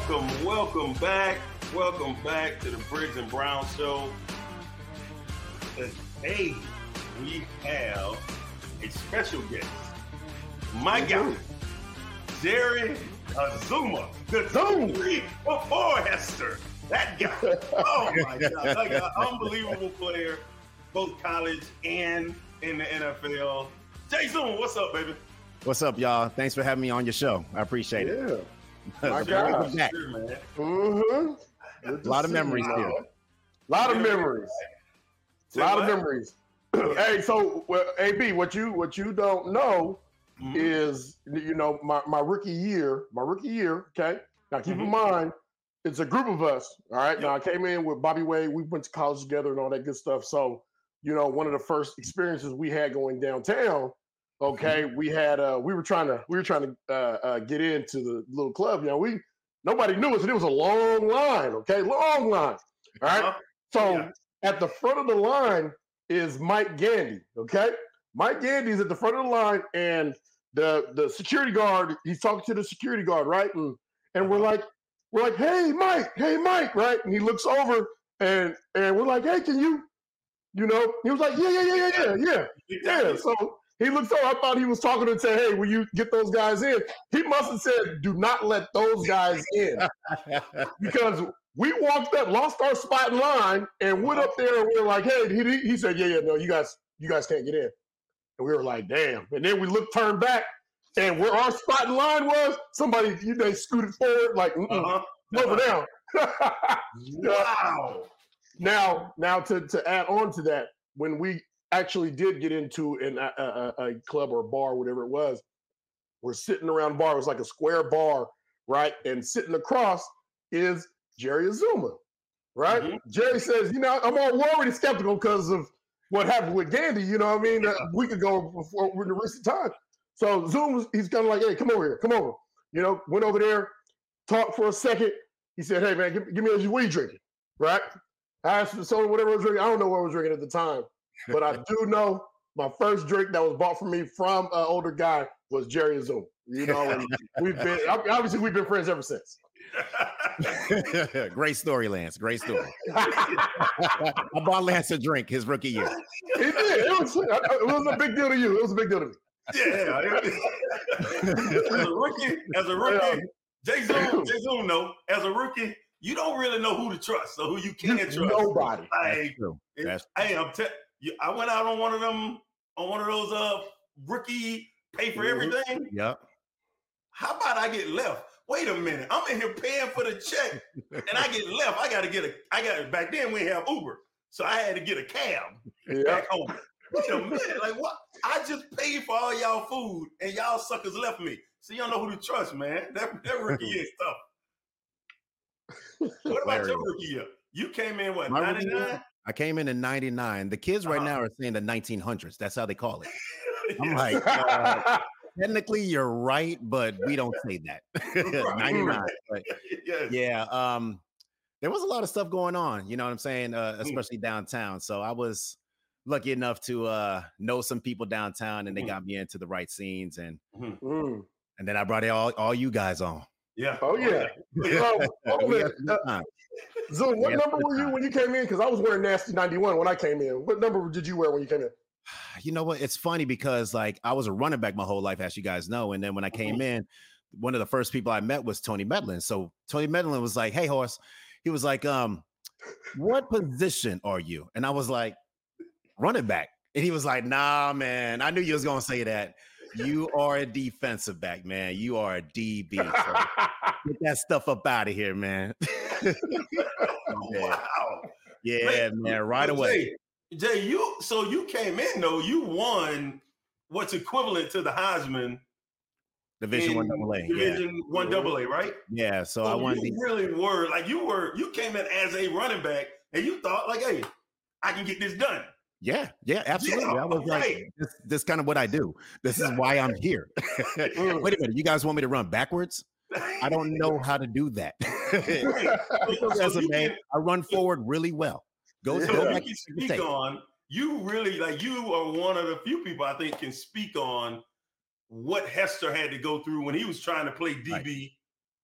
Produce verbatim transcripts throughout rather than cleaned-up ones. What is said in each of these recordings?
welcome, welcome back. Welcome back to the Briggs and Brown Show. Today, we have a special guest. My guy, Jerry Azumah, the Zoom three before Hester. That guy. Oh, my God. That guy, unbelievable player, both college and in the N F L. Jay Zoom, what's up, baby? What's up, y'all? Thanks for having me on your show. I appreciate yeah. it. My God. Sure, man. Mm-hmm. A lot of memories you, here. A lot of memories. A lot of memories. Hey, so well, A B, what you what you don't know mm-hmm. is, you know, my, my rookie year, my rookie year, okay? Now keep mm-hmm. in mind, it's a group of us, all right? Yep. Now I came in with Bobby Wade, we went to college together and all that good stuff. So, you know, one of the first experiences we had going downtown, okay, mm-hmm. we had uh we were trying to we were trying to uh, uh get into the little club. You know, we nobody knew us, and it was a long line, okay, long line. All right. Uh-huh. So yeah. At the front of the line is Mike Gandy, okay? Mike Gandy's at the front of the line, and the the security guard, he's talking to the security guard, right? And and uh-huh. we're like, we're like, hey Mike, hey Mike, right? And he looks over and and we're like, hey, can you, you know, he was like, yeah, yeah, yeah, yeah, yeah, yeah. Yeah. So he looked over, I thought he was talking to say, hey, will you get those guys in? He must have said, do not let those guys in. Because we walked up, lost our spot in line, and went up there, and we were like, hey, he, he said, yeah, yeah, no, you guys, you guys can't get in. And we were like, damn. And then we looked, turned back, and where our spot in line was, somebody, you know, scooted forward, like, mm-mm, uh-huh. over down. Wow. Now, now to, to add on to that, when we actually did get into an, a, a, a club or a bar, whatever it was, we're sitting around the bar. It was like a square bar, right? And sitting across is Jerry Azumah, right? Mm-hmm. Jerry says, you know, I'm already skeptical because of what happened with Gandy, you know what I mean? Yeah. A week ago before in the recent time. So Zoom, he's kind of like, hey, come over here, come over. You know, went over there, talked for a second. He said, hey, man, give, give me a, what are you drinking, right? I asked for the soda, whatever I was drinking. I don't know what I was drinking at the time. But I do know my first drink that was bought for me from an older guy was Jerry Azumah. You know, and we've been obviously we've been friends ever since. Great story, Lance. Great story. I bought Lance a drink his rookie year. He did. It was, it was a big deal to you. It was a big deal to me. Yeah. As a rookie, as a rookie, Jay Zoom, Jay Zoom, no, as a rookie, you don't really know who to trust or who you can't trust. Nobody. Like, That's true. That's true. Hey, I'm telling. I went out on one of them, on one of those uh rookie pay for everything. Yep. How about I get left? Wait a minute. I'm in here paying for the check and I get left. I gotta get a I got back then we didn't have Uber. So I had to get a cab yep. back home. Wait a minute, like what? I just paid for all y'all food and y'all suckers left me. So you don't know who to trust, man. That that rookie year stuff. What about your rookie year? You came in what, ninety-nine? I came in in ninety-nine. The kids right uh-huh. now are saying the nineteen hundreds. That's how they call it. I'm like, uh, technically you're right, but we don't say that. ninety-nine. But yes. Yeah. Um, there was a lot of stuff going on, you know what I'm saying? Uh, especially mm. downtown. So I was lucky enough to uh, know some people downtown and they mm. got me into the right scenes. And mm. and then I brought all, all you guys on. Yeah. Oh, yeah. So, oh, uh, Zoom, what number were you when you came in? Because I was wearing Nasty ninety-one when I came in. What number did you wear when you came in? You know what? It's funny because, like, I was a running back my whole life, as you guys know. And then when I came mm-hmm. in, one of the first people I met was Tony Medlin. So Tony Medlin was like, hey, Horse. He was like, um, what position are you? And I was like, running back. And he was like, nah, man. I knew you was going to say that. You are a defensive back, man. You are a D B. So get that stuff up out of here, man. yeah. Wow. Yeah, Wait, man. Right away. Jay, Jay, you so you came in though. You won what's equivalent to the Heisman. Division one double A. Division yeah. one double A, right? Yeah. So, so I won. You these. really were like you were. You came in as a running back, and you thought like, "Hey, I can get this done." Yeah, yeah, absolutely. Yeah, I was right. like, this, this is kind of what I do. This is why I'm here. Wait a minute, you guys want me to run backwards? I don't know how to do that. As a man, I run forward really well. Go, so go you back. Can speak on. You really like you are one of the few people I think can speak on what Hester had to go through when he was trying to play D B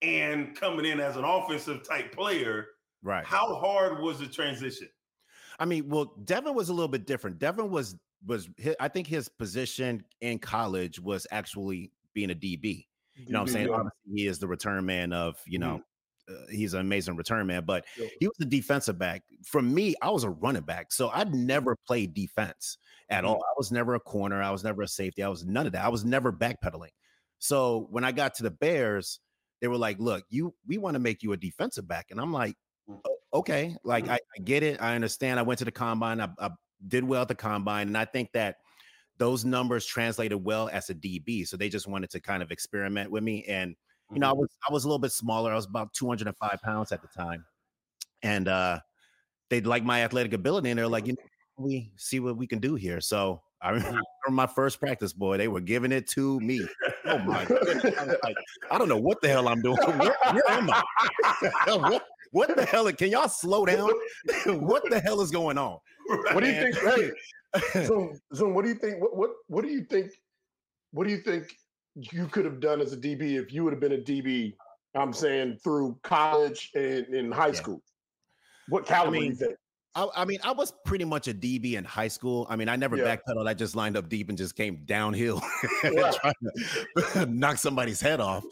and coming in as an offensive type player. Right. How hard was the transition? I mean, well, Devin was a little bit different. Devin was was I think his position in college was actually being a D B. You know what I'm saying? Yeah. Obviously, he is the return man of, you know, mm-hmm. uh, he's an amazing return man, but yeah. he was a defensive back. For me, I was a running back. So I'd never played defense at mm-hmm. all. I was never a corner. I was never a safety. I was none of that. I was never backpedaling. So when I got to the Bears, they were like, look, you we want to make you a defensive back. And I'm like, okay, like I, I get it. I understand. I went to the combine. I, I did well at the combine. And I think that those numbers translated well as a D B. So they just wanted to kind of experiment with me. And, you know, I was I was a little bit smaller. I was about two hundred five pounds at the time. And uh, they liked my athletic ability. And they're like, you know, we see what we can do here. So I remember my first practice, boy, they were giving it to me. Oh my goodness. I was like, I don't know what the hell I'm doing. Where, where am I? what, what the hell? Can y'all slow down? What the hell is going on? What do you think? Hey, Zoom, Zoom, what do you think? What, what what do you think? What do you think you could have done as a D B if you would have been a D B? I'm saying through college and in high yeah. school. What caliber I mean, do you think? I, I mean, I was pretty much a D B in high school. I mean, I never yeah. backpedaled. I just lined up deep and just came downhill trying to knock somebody's head off.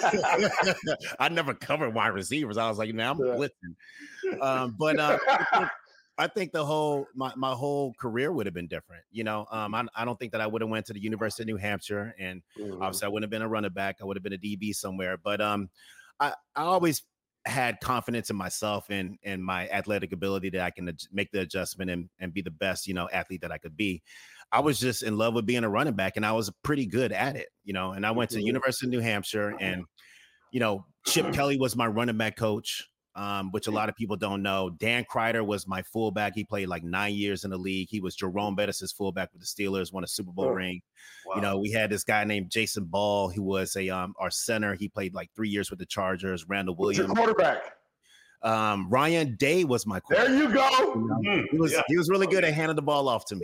I never covered wide receivers. I was like, now I'm yeah. blitzing. Um, but uh, I, think, I think the whole my, my whole career would have been different. You know, um, I, I don't think that I would have went to the University of New Hampshire, and mm-hmm. obviously I wouldn't have been a running back. I would have been a D B somewhere. But um, I, I always had confidence in myself and and my athletic ability that I can ad- make the adjustment and, and be the best, you know, athlete that I could be. I was just in love with being a running back, and I was pretty good at it, you know, and I went to the University of New Hampshire, and, you know, Chip Kelly was my running back coach, um, which a lot of people don't know. Dan Kreider was my fullback. He played like nine years in the league. He was Jerome Bettis' fullback with the Steelers, won a Super Bowl oh. ring. Wow. You know, we had this guy named Jason Ball, who was a um our center. He played like three years with the Chargers. Randall Williams. What's your quarterback? Um, Ryan Day was my quarterback. There you go. You know, he was yeah. he was really good at handing the ball off to me.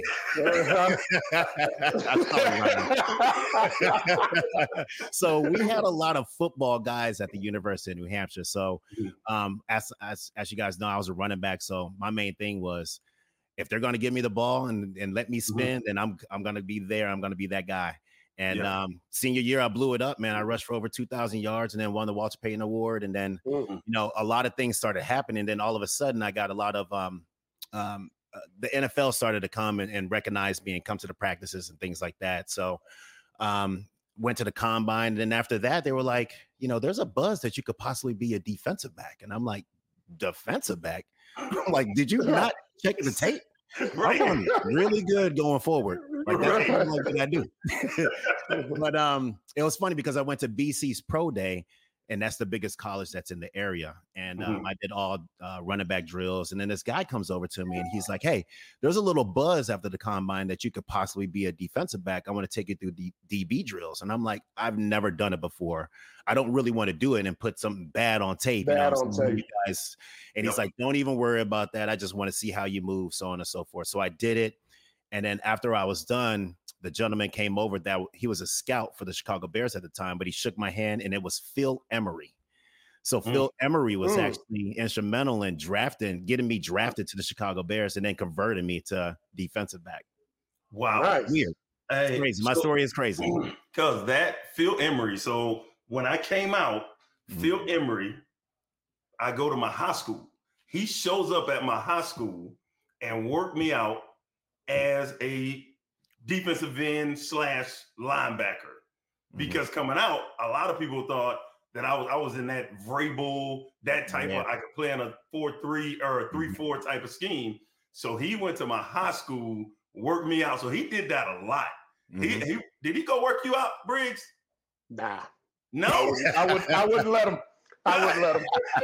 So we had a lot of football guys at the University of New Hampshire. So um, as as as you guys know, I was a running back. So my main thing was, if they're going to give me the ball and, and let me spin, mm-hmm. then I'm I'm going to be there. I'm going to be that guy. And yeah. um, senior year, I blew it up, man. I rushed for over two thousand yards and then won the Walter Payton Award. And then, mm-hmm. you know, a lot of things started happening. And then all of a sudden, I got a lot of um, um, uh, the N F L started to come and, and recognize me and come to the practices and things like that. So um, went to the combine. And then after that, they were like, you know, there's a buzz that you could possibly be a defensive back. And I'm like, defensive back? I'm like, did you not check the tape? Right. I'm doing really good going forward. Like that's right. What I do. But um, it was funny because I went to B C's Pro Day, and that's the biggest college that's in the area. And um, mm-hmm. I did all uh, running back drills. And then this guy comes over to me and he's like, hey, there's a little buzz after the combine that you could possibly be a defensive back. I want to take you through the D B drills. And I'm like, I've never done it before. I don't really want to do it and put something bad on tape. Bad you know, on tape. You guys. And yep. he's like, don't even worry about that. I just want to see how you move, so on and so forth. So I did it. And then after I was done, the gentleman came over that he was a scout for the Chicago Bears at the time, but he shook my hand, and it was Phil Emery. So mm. Phil Emery was mm. actually instrumental in drafting, getting me drafted to the Chicago Bears and then converting me to defensive back. Wow. Nice. Weird. Hey, it's crazy. My so, story is crazy. Because that Phil Emery. So when I came out, mm. Phil Emery, I go to my high school. He shows up at my high school and worked me out as a defensive end slash linebacker. Because mm. coming out, a lot of people thought that I was I was in that Vrabel, that type yeah. of, I could play in a four three or a three four type of scheme. So he went to my high school, worked me out. So he did that a lot. Mm-hmm. He, he did he go work you out, Briggs? Nah. No? I would I wouldn't let him. I wouldn't let him.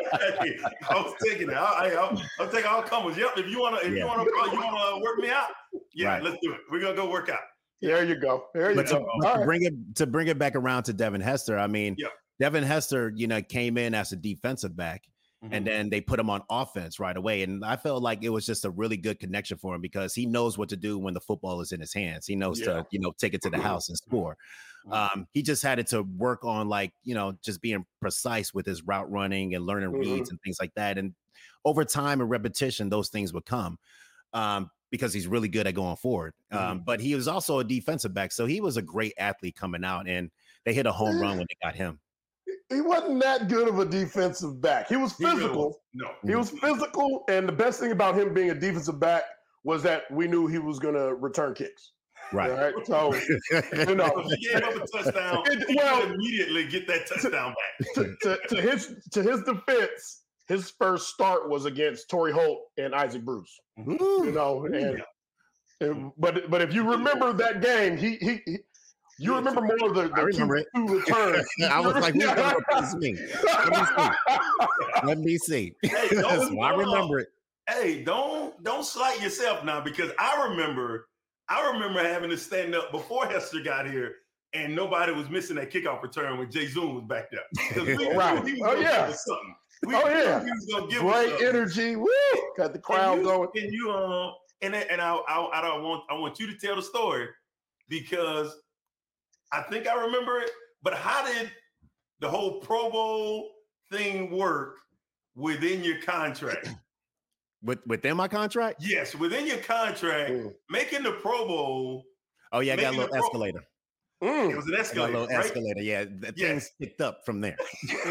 I was taking it. I, I, I'll, I'll take all comers. Yep. If you wanna if yeah. you wanna you wanna work me out, yeah, right. Let's do it. We're gonna go work out. There you go. There you but go. To, to right. bring it to bring it back around to Devin Hester. I mean, yeah. Devin Hester, you know, came in as a defensive back, Mm-hmm. And then they put him on offense right away. And I felt like it was just a really good connection for him because he knows what to do when the football is in his hands. He knows yeah. to, you know, take it to the house and score. Um, he just had it to work on, like, you know, just being precise with his route running and learning mm-hmm. reads and things like that. And over time and repetition, those things would come um, because he's really good at going forward. Mm-hmm. Um, but he was also a defensive back. So he was a great athlete coming out, and they hit a home run when they got him. He wasn't that good of a defensive back. He was physical. He no, he was physical, and the best thing about him being a defensive back was that we knew he was going to return kicks. Right. right. So, you know, if he gave up a touchdown, it, he well, would immediately get that touchdown back. To, to, to his to his defense, his first start was against Torrey Holt and Isaac Bruce. Ooh. You know, and, yeah. and but but if you remember that game, he he. he You remember more of the, the I remember two, two returns. I was like, who's going to replace me? Let me see. Let me see. Hey, so I remember it. Hey, don't don't slight yourself now, because I remember I remember having to stand up before Hester got here, and nobody was missing that kickoff return when Jay Zoom was back there. We right. He was oh yeah. We oh yeah. He was gonna give Great energy. Woo! Got the crowd and you, going. And you um and and I, I I don't want I want you to tell the story, because I think I remember it, but how did the whole Pro Bowl thing work within your contract? With, within my contract? Yes, within your contract, mm. making the Pro Bowl. Oh, yeah, I got a little escalator. Mm. It was an escalator. A little right? escalator, yeah. The yes. things picked up from there.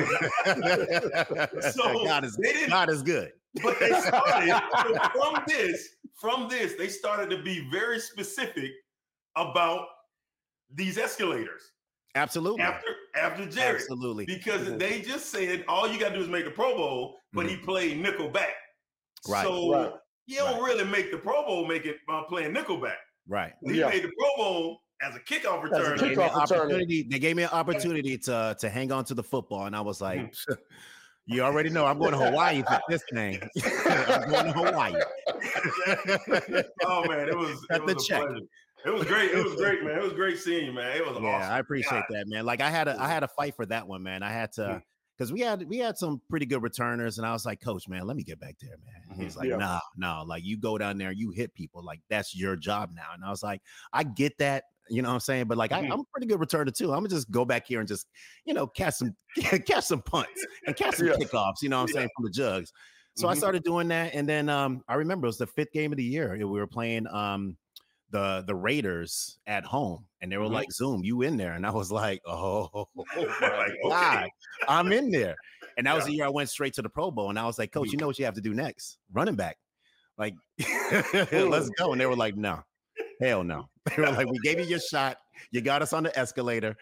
so God is, God is good. But they started, so from this, from this, they started to be very specific about these escalators. Absolutely. After after Jerry. Absolutely. Because mm-hmm. they just said all you got to do is make the Pro Bowl, but mm-hmm. he played nickelback. Right. So right. you don't right. really make the Pro Bowl make it uh, playing nickelback. Right. He yeah. made the Pro Bowl as a kickoff return. As a kickoff they, opportunity, they gave me an opportunity to, to hang on to the football, and I was like, mm-hmm. you already know I'm going to Hawaii for this thing. I'm going to Hawaii. Oh, man, it was, it was the a check. pleasure. It was great. It was great, man. It was great seeing you, man. It was yeah, awesome. I appreciate God. that, man. Like I had a I had a fight for that one, man. I had to because mm-hmm. we had we had some pretty good returners, and I was like, Coach, man, let me get back there, man. Mm-hmm. He's like, yeah. no, no, like you go down there, you hit people, like that's your job now. And I was like, I get that, you know what I'm saying, but like mm-hmm. I, I'm a pretty good returner too. I'm gonna just go back here and just, you know, catch some catch some punts and catch some yeah. kickoffs, you know what I'm yeah. saying, from the jugs. So mm-hmm. I started doing that, and then um, I remember it was the fifth game of the year. We were playing um. the the Raiders at home, and they were mm-hmm. like, Zoom, you in there? And I was like, oh, oh my like, God, okay. I'm in there. And that was yeah. the year I went straight to the Pro Bowl. And I was like, Coach, you know what you have to do next? Running back. Like, let's go. And they were like, no, hell no. They were like, we gave you your shot. You got us on the escalator.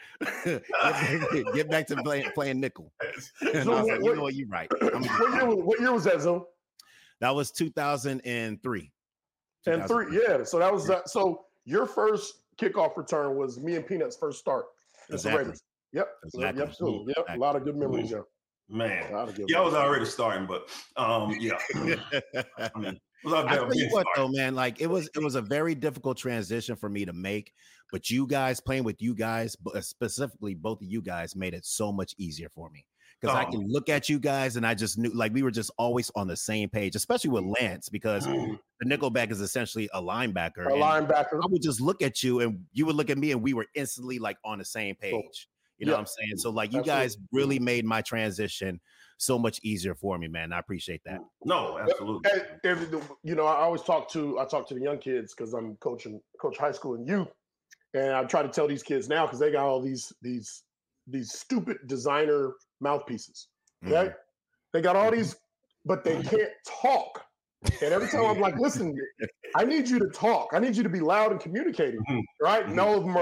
Get back to playing, playing nickel. And so I was like, you know what, you're right. What year, was, what year was that, Zoom? That was two thousand three. And three, yeah. So that was uh, so your first kickoff return was me and Peanut's first start. Exactly. Yep. Exactly. Yep. Yep. Exactly. A lot of good memories there. Man, yeah, I was already starting, but um, yeah. I mean, was out there I tell you what, starting. though, man, like it was it was a very difficult transition for me to make. But you guys playing with you guys, specifically both of you guys, made it so much easier for me. Because oh. I can look at you guys and I just knew, like, we were just always on the same page, especially with Lance, because mm. the nickelback is essentially a linebacker. A linebacker. I would just look at you and you would look at me and we were instantly like on the same page. Cool. You know yeah. what I'm saying? So like you absolutely. guys really made my transition so much easier for me, man. I appreciate that. No, absolutely. And, and, you know, I always talk to, I talk to the young kids because I'm coaching, coach high school and youth. And I try to tell these kids now, because they got all these, these, these stupid designer mouthpieces. Okay, mm-hmm. they got all these, but they can't talk. And every time I'm like, listen, I need you to talk. I need you to be loud and communicating, mm-hmm. right? Mm-hmm. And all of them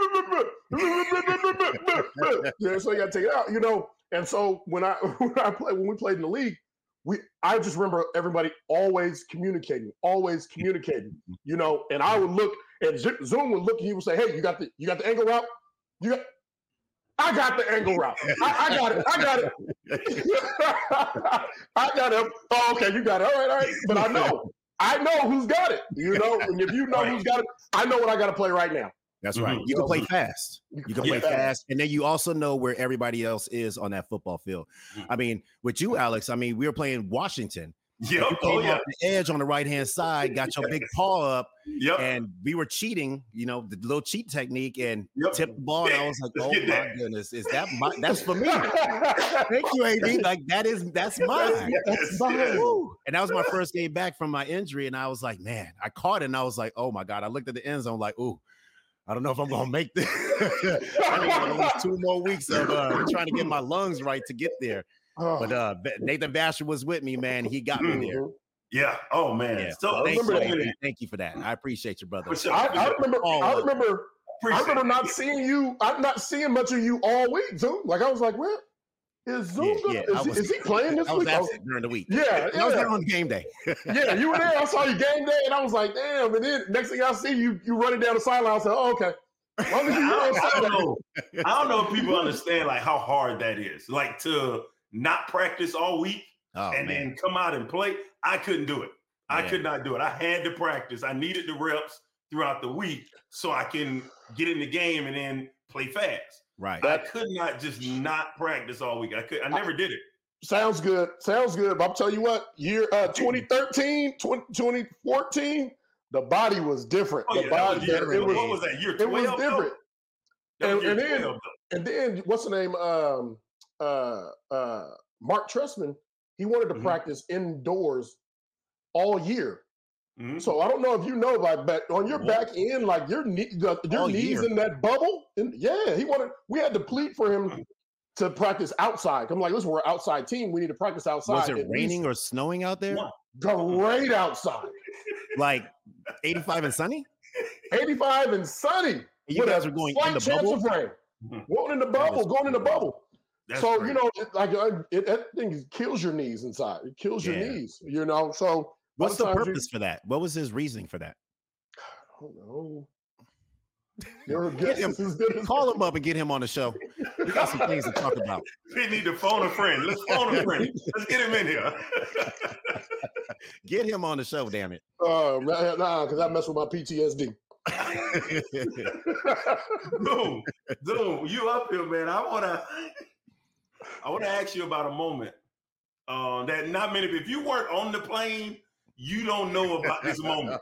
are, yeah, so you got to take it out, you know. And so when I when I play when we played in the league, we I just remember everybody always communicating, always communicating, you know. And I would look, and Zoom would look, and he would say, "Hey, you got the you got the angle route? You got." I got the angle route. I, I got it. I got it. I got it. Oh, okay, you got it. All right, all right. But I know. I know who's got it. You know, and if you know who's got it, I know what I got to play right now. That's Mhm. right. You can play fast. You You can play play fast. fast, and then you also know where everybody else is on that football field. Mhm. I mean, with you, Alex. I mean, we were playing Washington. Yep. You Oh came yeah. off the edge on the right hand side, got your big paw up, Yep. and we were cheating. You know, the little cheat technique, and Yep. tipped the ball. And I was like, Let's "Oh get my that. goodness, is that my? That's for me." Thank you, A B. Like that is that's mine. That's mine. Woo. And that was my first game back from my injury, and I was like, "Man, I caught it." And I was like, "Oh my god!" I looked at the end zone, like, "Ooh, I don't know if I'm gonna make this." I think it was two more weeks of uh, trying to get my lungs right to get there. Oh. But uh, Nathan Basher was with me, man. He got me there. Mhm. Yeah. Oh man. Yeah. So Thank so you, many- A B. Thank you for that. I appreciate you, brother. For sure. I, I remember. Oh, I look. remember. I Appreciate remember it. not seeing you. I'm not seeing much of you all week, Zoom. Like I was like, "Where is Zoom? Yeah, gonna- yeah, I is, he, was- is he playing this I was week?" I was- absent during the week. yeah, I was there yeah, on game day. yeah. You were there. I saw you game day, and I was like, "Damn!" And then next thing I see you, you running down the sideline. I said, "Oh, okay." As long as you I on don't, I Sunday. don't know. I don't know if people understand like how hard that is. Like to not practice all week Oh and man. then come out and play. I couldn't do it. I Yeah. could not do it. I had to practice. I needed the reps throughout the week so I can get in the game and then play fast. Right. I could not just not practice all week. I could. I never did it. Sounds good. Sounds good. But I'll tell you what, year uh, twenty thirteen, twenty, twenty fourteen, the body was different. Oh the yeah, that body, was year, it was, what was that? Year it was twelve. different. That was And- year and then- twelve, though. And then what's the name? Um, uh, uh, Mark Trestman. He wanted to Mhm. practice indoors all year. Mhm. So I don't know if you know, like, but on your What? back end, like your knee, the, your All knees year? in that bubble. And yeah, he wanted. We had to plead for him to practice outside. I'm like, listen, we're an outside team. We need to practice outside. Was it at raining least. or snowing out there? One. Great outside. Like eighty-five and sunny? eighty-five and sunny. You with guys a were going slight in the chance bubble? of rain. Mhm. Going in the That bubble, is going in the crazy. bubble. That's so crazy. you know, it, like uh, it, that thing kills your knees inside. It kills your Yeah. knees. You know, so What's the sometimes you- purpose for that? What was his reasoning for that? I don't know. Your Get guess him- is as good as Call him up and get him on the show. We got some things to talk about. We need to phone a friend. Let's phone a friend. Let's get him in here. Get him on the show, damn it. Uh, nah, because I mess with my P T S D. Zoom, Zoom, you up here, man. I wanna I wanna ask you about a moment uh, that not many if you weren't on the plane, you don't know about this moment.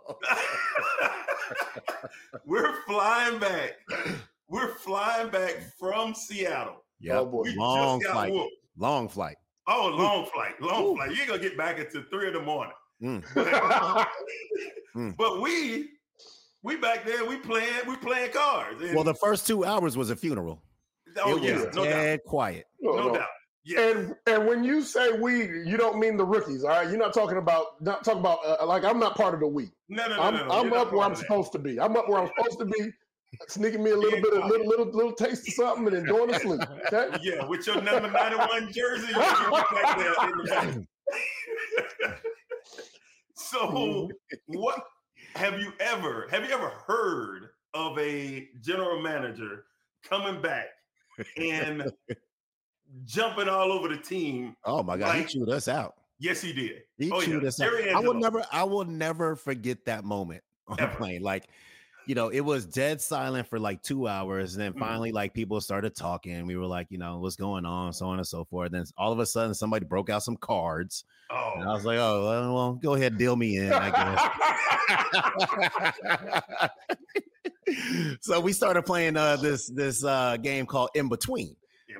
We're flying back. We're flying back from Seattle. Oh Yeah, boy. We long just got flight. whooped. Long flight. Oh, long flight, long Ooh. flight. You ain't gonna get back until three in the morning. Mm. Mm. But we we back there, we playing, we playing cards. And- Well, the first two hours was a funeral. oh it yeah, was no doubt, dead quiet. No, no no. doubt. Yeah. And and when you say we, you don't mean the rookies, all right? You're not talking about not talking about uh, like I'm not part of the we. No, no, no, I'm no, no. I'm You're not up where part I'm of that. supposed to be. I'm up where I'm supposed to be, sneaking me a little bit of little little little taste of something and then going to sleep. Okay. Yeah, with your number ninety-one jersey, you're back there in the back. So, what have you ever have you ever heard of a general manager coming back and jumping all over the team? Oh my God, he Like- chewed us out. Yes, he did. He Oh, chewed yeah. us out. Jerry I will Angelo. never, I will never forget that moment on the Ever. plane. Like, you know, it was dead silent for like two hours. And then Mhm. finally, like people started talking. We were like, you know, what's going on, so on and so forth. Then all of a sudden, somebody broke out some cards. And I Oh, was like, oh, well, well, go ahead, deal me in, I guess. So we started playing uh, this this uh, game called In Between.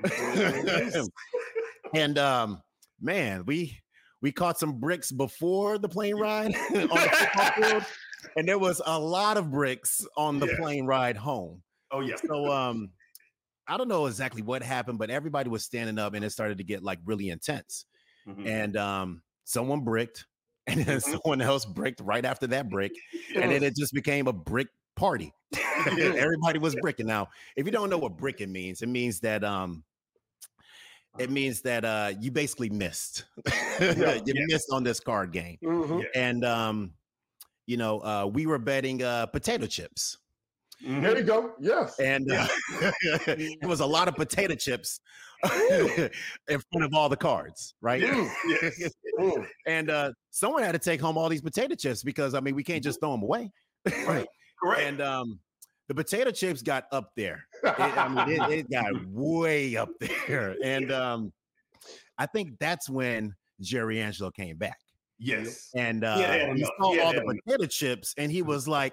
And um, man, we we caught some bricks before the plane ride on the football field, and there was a lot of bricks on the Yeah. plane ride home. oh yeah. So um, I don't know exactly what happened, but everybody was standing up, and it started to get like really intense. Mhm. And um, someone bricked, and then Mhm. someone else bricked right after that brick, and then it just became a brick party. Everybody was bricking. Now, if you don't know what bricking means, it means that um, it means that uh, you basically missed. you Yeah. missed on this card game, Mhm. and um, you know, uh, we were betting uh, potato chips, Mhm. There you go. Yes. and uh, it was a lot of potato chips in front of all the cards, right? Yes, yes. Mm. And uh, someone had to take home all these potato chips because I mean we can't just throw them away. Right. Correct. And um, the potato chips got up there. It, I mean, it, it got way up there. And um, I think that's when Jerry Angelo came back. Yes. And uh, yeah, he saw all the potato chips, and he was like,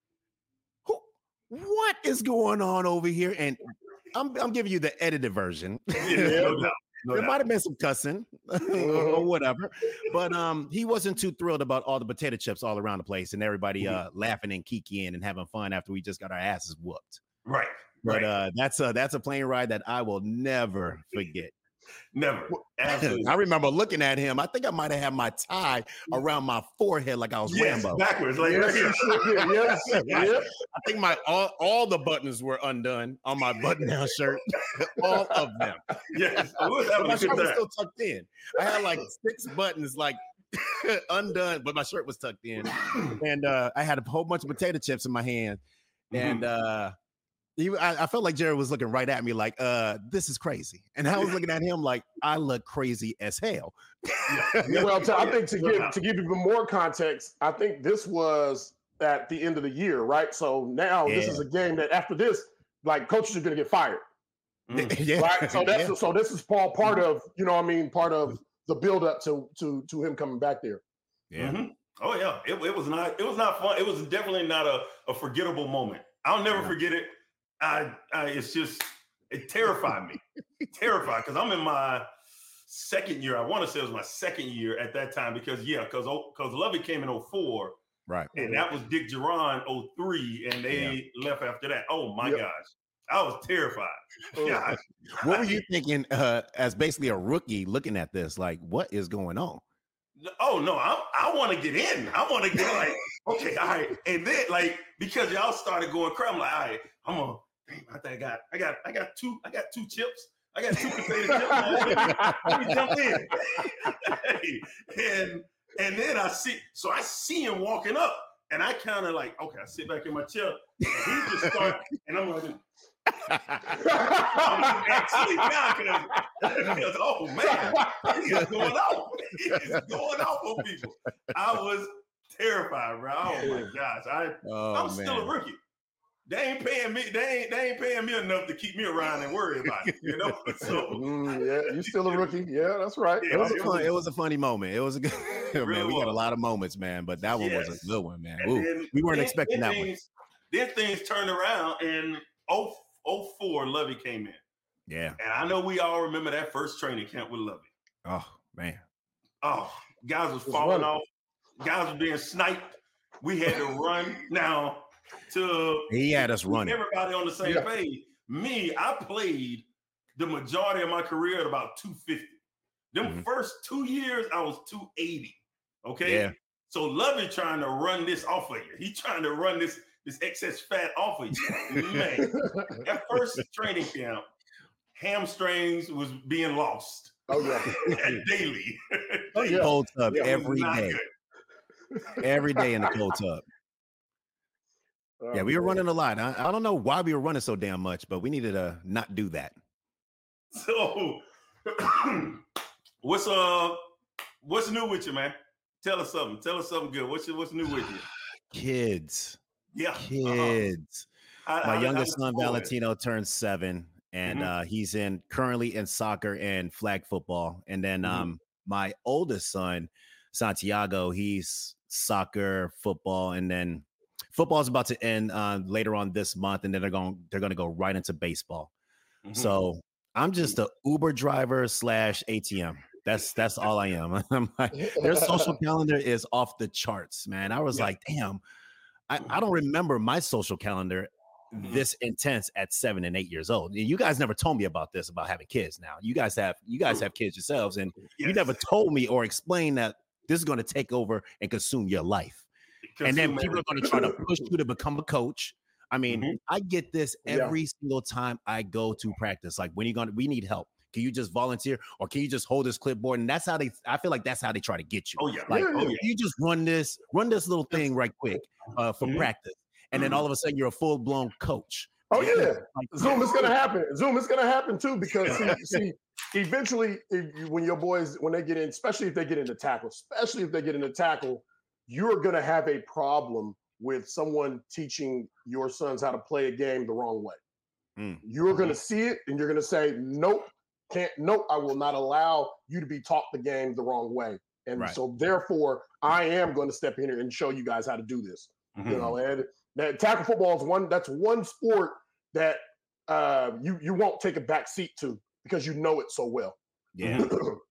Who, what is going on over here? And I'm, I'm giving you the edited version. Yeah, no doubt. No there doubt. might have been some cussing or whatever, but um, he wasn't too thrilled about all the potato chips all around the place and everybody uh, laughing and kikiing and having fun after we just got our asses whooped. Right. But right. uh, that's a that's a plane ride that I will never forget. Never. Absolutely. I remember looking at him. I think I might have had my tie around my forehead like I was yes, Rambo. Backwards. Like yes, yes, yes, yes. I think my all, all the buttons were undone on my button-down shirt. All of them. Yes. But my shirt was still tucked in. I had like six buttons like undone, but my shirt was tucked in. And uh, I had a whole bunch of potato chips in my hand. And uh He, I, I felt like Jerry was looking right at me like, uh, this is crazy. And I was looking at him like, I look crazy as hell. Yeah, well, to, I think to give to give even more context, I think this was at the end of the year, right? So now yeah. this is a game that after this, like coaches are going to get fired, mm. yeah. right? So that's yeah. so this is Paul part of you know what I mean part of the build up to to to him coming back there. Yeah. Mm-hmm. Oh yeah, it, it was not it was not fun. It was definitely not a, a forgettable moment. I'll never yeah. forget it. I, I, it's just, it terrified me. terrified, because I'm in my second year. I want to say it was my second year at that time because, yeah, because because Lovie came in oh four. Right. And that was Dick Geron oh three, and they yeah. left after that. Oh, my yep. gosh. I was terrified. Gosh. What were you thinking uh, as basically a rookie looking at this? Like, what is going on? Oh, no, I, I want to get in. I want to get like, okay, all right. And then, like, because y'all started going crazy, I'm like, all right, I'm going to, I think I got, I got, I got two, I got two chips. I got two potato chips. Let me, let me jump in. and and then I see, so I see him walking up, and I kind of like, okay, I sit back in my chair, and he just starts, and I'm like, I'm actually now because oh man, he is going off. He is going off on people. I was terrified, bro. Oh my gosh, I oh, I'm man. still a rookie. They ain't paying me. They ain't. They ain't paying me enough to keep me around and worry about it. You know. So mm, yeah, you're still a rookie. Yeah, that's right. Yeah, it was a fun. It was a funny moment. It was a good. man, really we was. got a lot of moments, man, but that one yes. was a good one, man. Then, we weren't then, expecting then that things, one. Then things turned around, and oh four, Lovie came in. Yeah, and I know we all remember that first training camp with Lovie. Oh man. Oh, guys was falling off. Guys was being sniped. We had to run now. To he had us running. Everybody on the same yeah. page. Me, I played the majority of my career at about two fifty. Them mm-hmm. first two years, I was two eighty. Okay. Yeah. So Lovie trying to run this off of you. He trying to run this this excess fat off of you. Man, that first training camp, hamstrings was being lost. Oh yeah. daily. Oh yeah. Cold tub yeah, every day. Good. Every day in the cold tub. Yeah, we were running a lot. I, I don't know why we were running so damn much, but we needed to not do that. So, what's uh, what's new with you, man? Tell us something. Tell us something good. What's what's new with you? Kids. Yeah, kids. Uh-huh. My I, youngest I, I son Valentino turned seven, and mm-hmm. uh, he's in currently in soccer and flag football. And then mm-hmm. um, my oldest son Santiago, he's soccer, football, and then. Football is about to end uh, later on this month, and then they're going they're going to go right into baseball. Mm-hmm. So I'm just a Uber driver slash A T M. That's that's all I am. I'm like, their social calendar is off the charts, man. I was yeah. like, damn, I, I don't remember my social calendar mm-hmm. this intense at seven and eight years old. You guys never told me about this about having kids. Now you guys have you guys have kids yourselves, and yes. you never told me or explained that this is going to take over and consume your life. And then people are going to try to push you to become a coach. I mean, mm-hmm. I get this every yeah. single time I go to practice. Like, when are you going to, we need help. Can you just volunteer or can you just hold this clipboard? And that's how they, I feel like that's how they try to get you. Oh, yeah. Like, yeah, oh, yeah. you just run this, run this little thing right quick uh, for mm-hmm. practice. And mm-hmm. then all of a sudden you're a full blown coach. Oh, yeah. Like, Zoom is going to happen. Zoom is going to happen too, because see, see eventually if, when your boys, when they get in, especially if they get into tackle, especially if they get into tackle, you're going to have a problem with someone teaching your sons how to play a game the wrong way. Mm. You're going to see it and you're going to say, nope, can't, nope, I will not allow you to be taught the game the wrong way. And Right. so therefore, I am going to step in here and show you guys how to do this. Mm-hmm. You know, and that tackle football is one, that's one sport that uh, you, you won't take a back seat to because you know it so well. Yeah.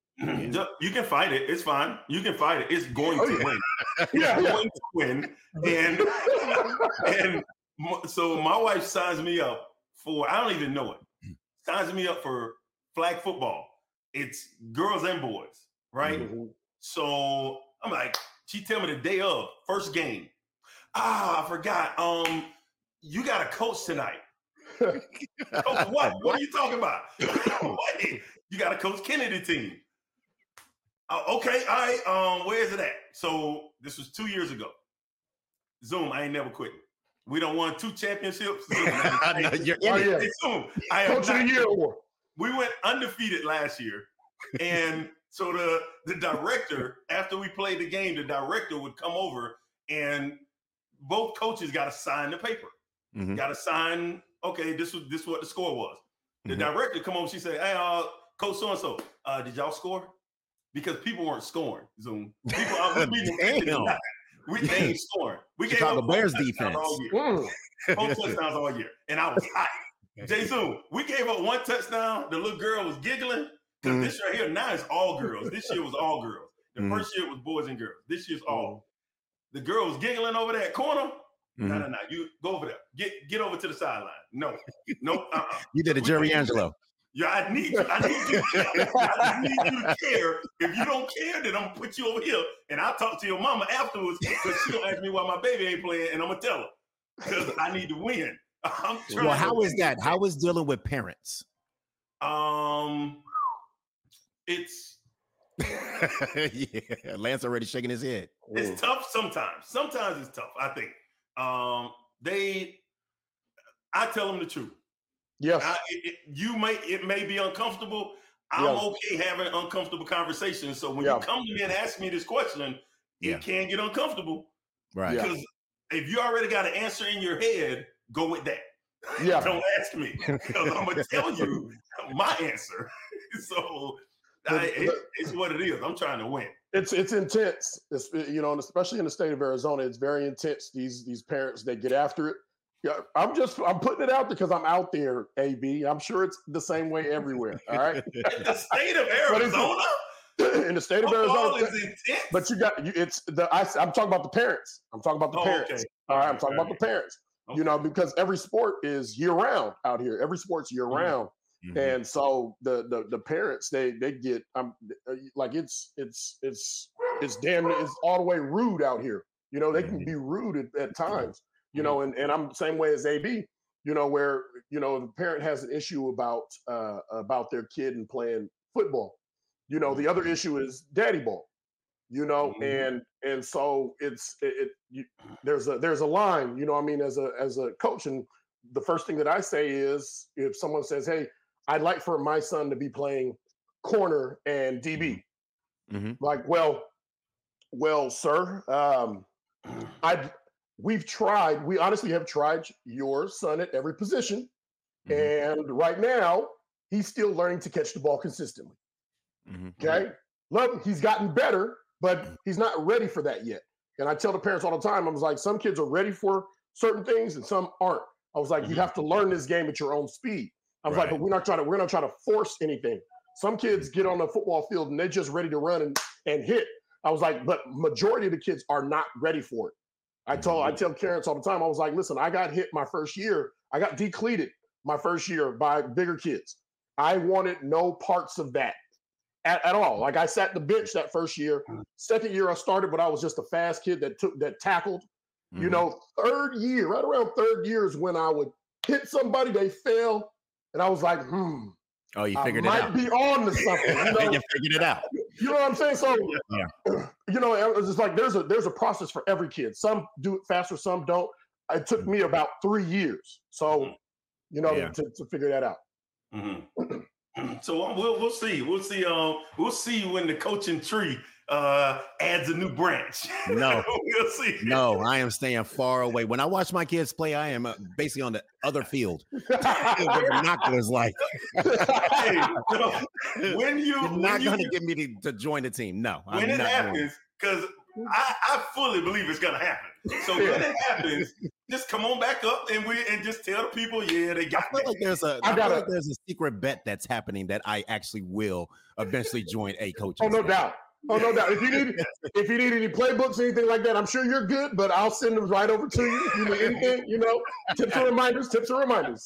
You can fight it. It's fine. You can fight it. It's going Oh, to yeah. win. It's Yeah, yeah. going to win. And and m- so my wife signs me up for, I don't even know it, signs me up for flag football. It's girls and boys, right? Mm-hmm. So I'm like, she tell me the day of, first game. Ah, I forgot. Um, you got a coach tonight. Coach what? What are you talking about? What? You got a Coach Kennedy team. Uh, okay, all right. Um, where is it at? So this was two years ago. Zoom, I ain't never quit. We don't won two championships. Zoom, I know, you're Oh, in it. yeah. Hey, Zoom, I am Coach of not- the year award. we went undefeated last year. And so the, the director, after we played the game, the director would come over and both coaches got to sign the paper. Mhm. Got to sign, okay, this was this is what the score was. The Mhm. director come over, she said, hey, uh, Coach so-and-so, uh, did y'all score? Because people weren't scoring, Zoom. People, uh, we, beat them Damn. we they ain't scoring. We gave Chicago up Bears four touchdowns defense. all year. Mm. Four touchdowns all year. And I was hot. Jay Zoom, we gave up one touchdown. The little girl was giggling. Because Mhm. this right here, now it's all girls. This year was all girls. The Mhm. first year was boys and girls. This year's all. The girl was giggling over that corner. No, Mhm. no, no. You go over there. Get get over to the sideline. No. No. Uh-uh. You did a Jerry Angelo. Yeah, I need you. I need you. I need you to care. If you don't care, then I'm gonna put you over here, and I'll talk to your mama afterwards because she'll ask me why my baby ain't playing, and I'm gonna tell her because I need to win. I'm trying. Well, to how is win. that? How is dealing with parents? Um, it's Yeah, Lance already shaking his head. it's tough sometimes. Sometimes it's tough. I think. Um, they. I tell them the truth. Yes. I, it, it- you may it may be uncomfortable. I'm Yeah. okay having uncomfortable conversations. So when Yeah. you come to me and ask me this question, Yeah. it can get uncomfortable Right. Yeah. because if you already got an answer in your head, go with that. Yeah. Don't ask me because I'm gonna tell you my answer. So I, it, it's what it is. I'm trying to win. It's it's intense. It's you know, and especially in the state of Arizona, it's very intense. These these parents, they get after it. Yeah, I'm just I'm putting it out because I'm out there, A B. I'm sure it's the same way everywhere. All right. The state of But it's- Arizona, in the state of football Arizona, is intense. but you got you, it's the I, I'm talking about the parents. I'm talking about the Oh, parents. okay. All right, I'm Alright, talking about alright. the parents. You know, because every sport is year round out here. Every sport's year Mhm. round. Mhm. And so the the the parents they they get um like it's it's it's it's damn it's all the way rude out here. You know, they can be rude at, at times. You know, and, and I'm the same way as A B. You know, where you know the parent has an issue about uh about their kid and playing football. You know, the other issue is daddy ball. You know, Mhm. and and so it's it, it you, there's a there's a line. You know, what I mean, as a as a coach, and the first thing that I say is if someone says, "Hey, I'd like for my son to be playing corner and D B." Mhm. Like, well, well, sir, um, I we've tried. We honestly have tried your son at every position, Mhm. and right now he's still learning to catch the ball consistently. Mhm. Okay, look, he's gotten better, but he's not ready for that yet. And I tell the parents all the time, I was like, some kids are ready for certain things and some aren't. I was like, you Mhm. have to learn this game at your own speed. I was like, Right. but we're not trying to, we're not trying to force anything. Some kids get on the football field and they're just ready to run and, and hit. I was like, but majority of the kids are not ready for it. I told, I tell parents all the time, I was like, listen, I got hit my first year. I got decleated my first year by bigger kids. I wanted no parts of that at, at all. Like I sat the bench that first year. Second year I started, but I was just a fast kid that took, that tackled. You Mhm. know, third year, right around third year is when I would hit somebody, they fell. And I was like, hmm, Oh, you I figured it might out. be on to something. You know, You figured it out. you know what I'm saying? So, Yeah. you know, it was just like there's a there's a process for every kid. Some do it faster, some don't. It took me about three years. So, you know, Yeah. to, to figure that out. Mhm. So um, we'll we'll see. We'll see. Um, we'll see when the coaching tree uh, adds a new branch. No, we'll see. No, I am staying far away. When I watch my kids play, I am uh, basically on the other field. With binoculars, like, hey, so when you you're when not you, going to get me to, to join the team. No, when I'm it not happens, because I, I fully believe it's gonna happen. So when it happens, just come on back up and we and just tell the people, yeah, they got. I feel like there's a, I I gotta, feel like there's a secret bet that's happening that I actually will eventually join a coach. Oh, no doubt. Oh, no doubt. If you need if you need any playbooks or anything like that, I'm sure you're good, but I'll send them right over to you. If you need anything, you know, tips and reminders, tips and reminders.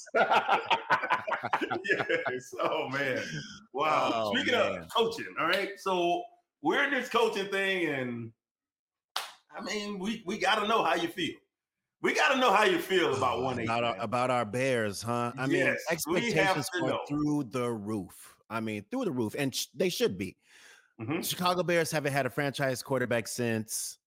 Yes. Oh man. Wow. Oh, Speaking man. of coaching, all right. So we're in this coaching thing, and I mean, we we gotta know how you feel. We gotta know how you feel about one eight. about our, about our Bears, huh? I mean, Yes, we have expectations to are know. through the roof. I mean, through the roof, and sh- they should be. Mhm. Chicago Bears haven't had a franchise quarterback since.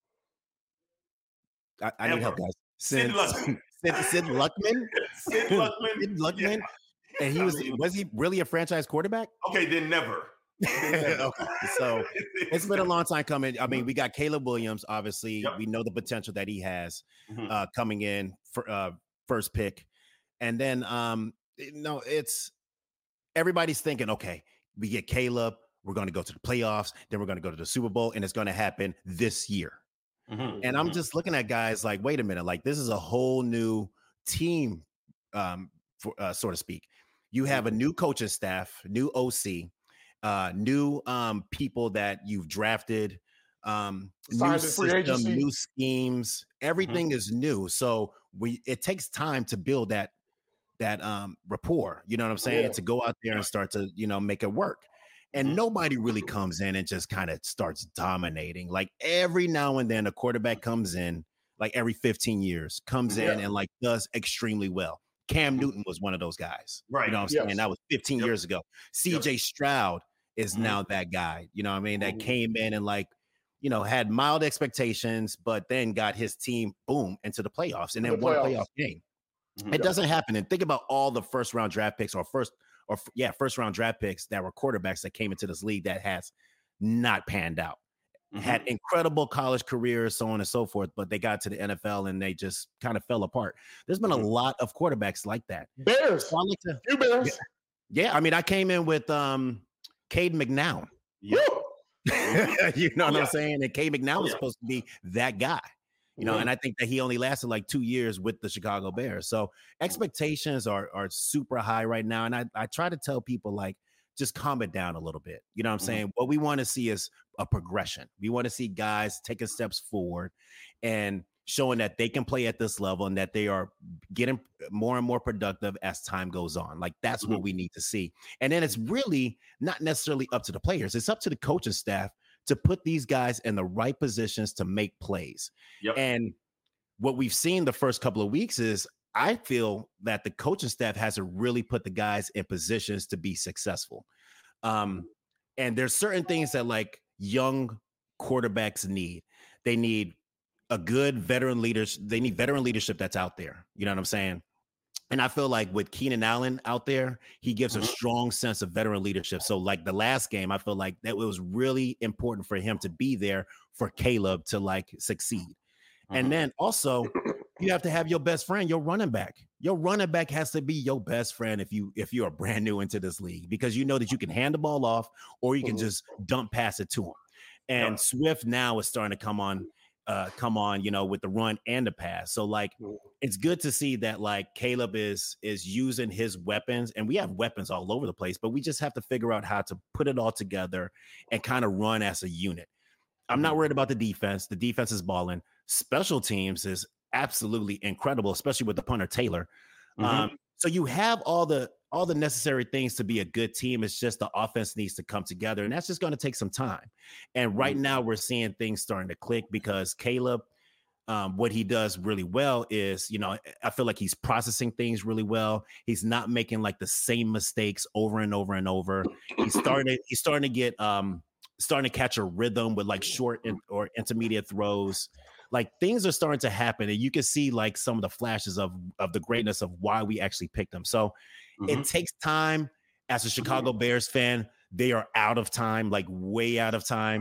I, I need Ever. help, guys. Sid Since Luckman. Sid, Sid Luckman. Sid Luckman. Sid Luckman. Yeah. And he I was mean, was he really a franchise quarterback? okay, then never. Then never. Okay, so it's been a long time coming. I mean, we got Caleb Williams. Obviously, Yep. we know the potential that he has Mhm. uh, coming in for uh, first pick, and then um, no, it's everybody's thinking, okay, we get Caleb. We're going to go to the playoffs. Then we're going to go to the Super Bowl, and it's going to happen this year. Mhm. And I'm Mhm. just looking at guys like, wait a minute, like this is a whole new team, um, for, uh, so to speak. You have a new coaching staff, new O C, uh, new um, people that you've drafted, um, new Signed in free system, agency. new schemes. Everything is new, so we it takes time to build that that um, rapport. You know what I'm saying? Yeah. To go out there and start to you know make it work. And Mhm. nobody really comes in and just kind of starts dominating. Like every now and then, a quarterback comes in, like every fifteen years, comes in Yeah. and like does extremely well. Cam Newton was one of those guys. Right. You know what I'm Yes. saying? That was fifteen Yep. years ago. C J Stroud is Mhm. now that guy. You know what I mean? That Mhm. came in and like, you know, had mild expectations, but then got his team boom into the playoffs and The then won a playoffs. playoff game. Mhm. It doesn't happen. And think about all the first round draft picks or first or f- yeah, first round draft picks that were quarterbacks that came into this league that has not panned out. Mhm. Had incredible college careers, so on and so forth, but they got to the N F L and they just kind of fell apart. There's been Mhm. a lot of quarterbacks like that. Bears. So I like to, You Bears. yeah, I mean, I came in with um Cade McNown. Yep. Woo! You know Oh, what yeah. I'm saying? And Cade McNown Oh, was yeah. supposed to be that guy. You know, Mhm. and I think that he only lasted like two years with the Chicago Bears. So expectations are are super high right now. And I, I try to tell people like just calm it down a little bit. You know what I'm Mhm. saying? What we want to see is a progression. We want to see guys taking steps forward and showing that they can play at this level and that they are getting more and more productive as time goes on. Like that's what we need to see. And then it's really not necessarily up to the players, it's up to the coaching staff to put these guys in the right positions to make plays. Yep. And what we've seen the first couple of weeks is I feel that the coaching staff hasn't really put the guys in positions to be successful. Um, and there's certain things that like young quarterbacks need. They need a good veteran leaders. They need veteran leadership that's out there. You know what I'm saying? And I feel like with Keenan Allen out there, he gives a Mhm. strong sense of veteran leadership. So, like the last game, I feel like that it was really important for him to be there for Caleb to like succeed. Mhm. And then also, you have to have your best friend, your running back. Your running back has to be your best friend if you if you are brand new into this league because you know that you can hand the ball off or you can Mhm. just dump pass it to him. And Yep. Swift now is starting to come on, uh, come on, you know, with the run and the pass. So like, Mhm. it's good to see that like Caleb is is using his weapons, and we have weapons all over the place, but we just have to figure out how to put it all together and kind of run as a unit. I'm not Mhm. worried about the defense. The defense is balling. Special teams is absolutely incredible, especially with the punter Taylor. Mhm. Um, so you have all the all the necessary things to be a good team. It's just the offense needs to come together, and that's just going to take some time. And right Mhm. now, we're seeing things starting to click because Caleb, um, what he does really well is, you know, I feel like he's processing things really well. He's not making like the same mistakes over and over and over. He's starting to, he's starting to get um starting to catch a rhythm with like short in, or intermediate throws. Like things are starting to happen, and you can see like some of the flashes of of the greatness of why we actually picked him. So Mhm. it takes time. As a Chicago Bears fan, they are out of time, like way out of time.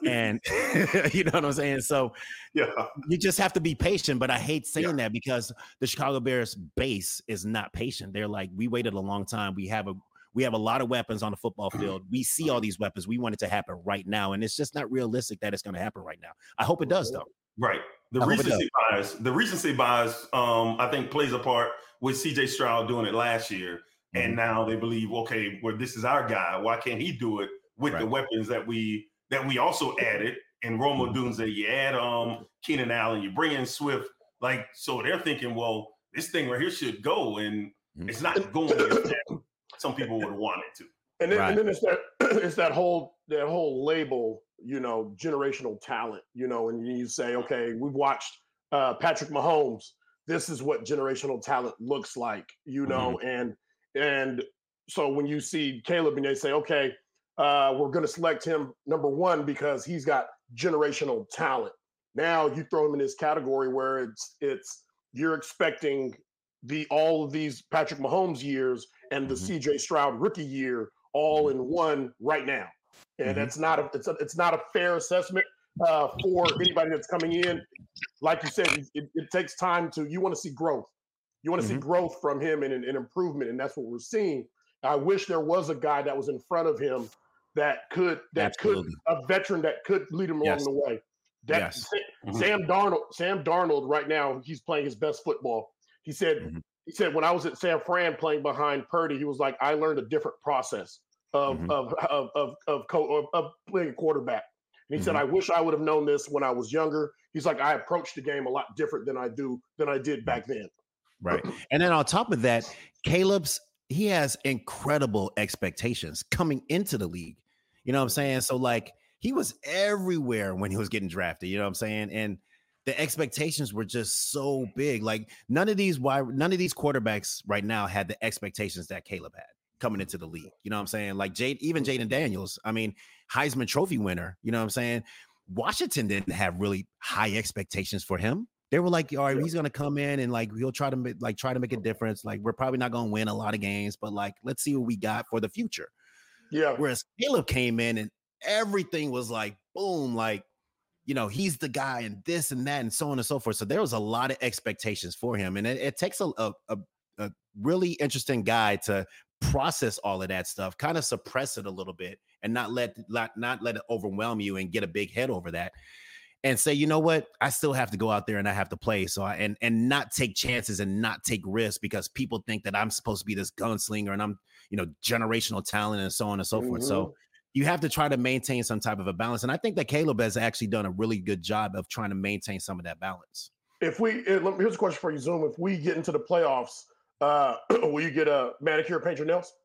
And you know what I'm saying? So yeah, you just have to be patient. But I hate saying yeah. that because the Chicago Bears base is not patient. They're like, we waited a long time. We have a we have a lot of weapons on the football field. We see all these weapons. We want it to happen right now. And it's just not realistic that it's going to happen right now. I hope it does, though. Right. The I recency bias, the recency bias, um, I think plays a part with C J Stroud doing it last year. Mm-hmm. And now they believe, okay, well, this is our guy. Why can't he do it with right. the weapons that we that we also added in Roma mm-hmm. Dunze? You add um Keenan Allen, you bring in Swift, like so they're thinking, well, this thing right here should go, and mm-hmm. it's not going as some people would have wanted to. And then, right. and then it's that it's that whole that whole label, you know, generational talent, you know, and you say, okay, we've watched uh, Patrick Mahomes. This is what generational talent looks like, you know, mm-hmm. and and so when you see Caleb and they say, okay, uh, we're going to select him number one because he's got generational talent. Now you throw him in this category where it's it's you're expecting the all of these Patrick Mahomes years and the mm-hmm. C J Stroud rookie year all in one right now, and mm-hmm. that's not a it's a, it's not a fair assessment uh, for anybody that's coming in. Like you said, it, it takes time to you want to see growth. You want to mm-hmm. see growth from him and an improvement, and that's what we're seeing. I wish there was a guy that was in front of him that could that Absolutely. could a veteran that could lead him yes. along the way. That yes. Sam, Sam Darnold, Sam Darnold, right now he's playing his best football. He said. Mm-hmm. He said, when I was at San Fran playing behind Purdy, he was like, I learned a different process of mm-hmm. of of of of, co- of, of playing quarterback. And he mm-hmm. said, I wish I would have known this when I was younger. He's like, I approached the game a lot different than I do than I did back then. Right. And then on top of that, Caleb's he has incredible expectations coming into the league. You know what I'm saying? So like he was everywhere when he was getting drafted. You know what I'm saying? And the expectations were just so big. Like none of these wide, none of these quarterbacks right now had the expectations that Caleb had coming into the league. You know what I'm saying? Like Jade, even Jaden Daniels, I mean, Heisman Trophy winner, you know what I'm saying? Washington didn't have really high expectations for him. They were like, all right, he's going to come in and like, he'll try to make, like, try to make a difference. Like, we're probably not going to win a lot of games, but like, let's see what we got for the future. Yeah. Whereas Caleb came in and everything was like, boom, like, you know, he's the guy and this and that and so on and so forth. So there was a lot of expectations for him. And it, it takes a, a, a really interesting guy to process all of that stuff, kind of suppress it a little bit and not let, not, not let it overwhelm you and get a big head over that and say, you know what, I still have to go out there and I have to play. So I, and, and not take chances and not take risks because people think that I'm supposed to be this gunslinger and I'm, you know, generational talent and so on and so mm-hmm. forth. So you have to try to maintain some type of a balance. And I think that Caleb has actually done a really good job of trying to maintain some of that balance. If we, here's a question for you, Zoom. If we get into the playoffs, uh, will you get a manicure, paint your nails?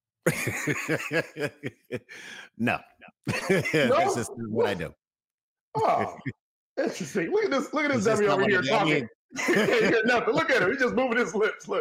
no, no. That's just what I do. Oh, interesting. Look at this. Look at this dummy over here talking. He can't hear nothing. Look at him. He's just moving his lips. Look.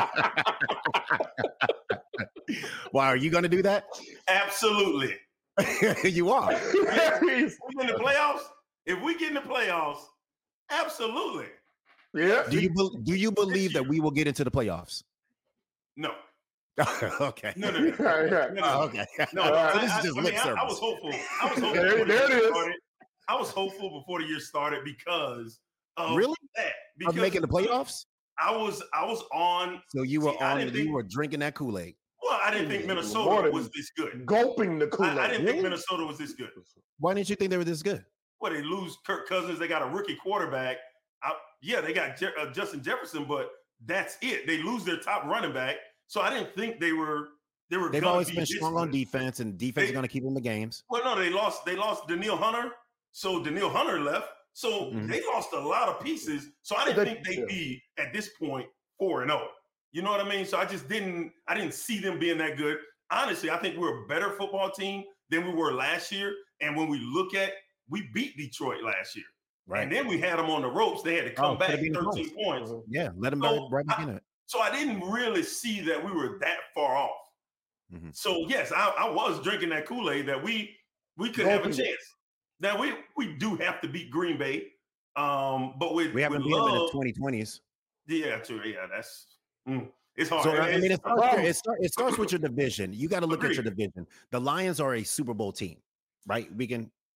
Why are you going to do that? Absolutely. You are. If we get in the playoffs, if we get in the playoffs, absolutely. Yeah. Do you be- do you believe that we will get into the playoffs? No. Okay. No, no, no. Right, right. no, no. Oh, okay. No, so I, this is I, just I, lip I, service. I was hopeful. I was hopeful. There, there it is. Started. I was hopeful before the year started because of really that. Because of making the playoffs. I was I was on. So you were see, on. You think, were drinking that Kool-Aid. Well, I didn't think Minnesota was this good. Gulping the Kool-Aid. I, I didn't think Minnesota was this good. Why didn't you think they were this good? Well, they lose Kirk Cousins. They got a rookie quarterback. I, yeah, they got Je- uh, Justin Jefferson, but that's it. They lose their top running back. So I didn't think they were. They were. They've always been strong on defense, and defense they, is going to keep them in the games. Well, no, they lost. They lost Danielle Hunter. So Danielle Hunter left. So mm-hmm. they lost a lot of pieces. So I didn't think they'd be at this point four and zero. You know what I mean? So I just didn't. I didn't see them being that good. Honestly, I think we're a better football team than we were last year. And when we look at, we beat Detroit last year, right? And then we had them on the ropes. They had to come oh, back thirteen close. Points. Yeah, let them so right back in it. So I didn't really see that we were that far off. Mm-hmm. So yes, I, I was drinking that Kool-Aid that we we could have a chance. Now we we do have to beat Green Bay, um, but with we haven't with been love, in the twenty twenties. Yeah, true. Yeah, that's mm, it's hard. So I mean, it's, it starts, it, start, it starts with your division. You got to look Agreed. at your division. The Lions are a Super Bowl team, right? We can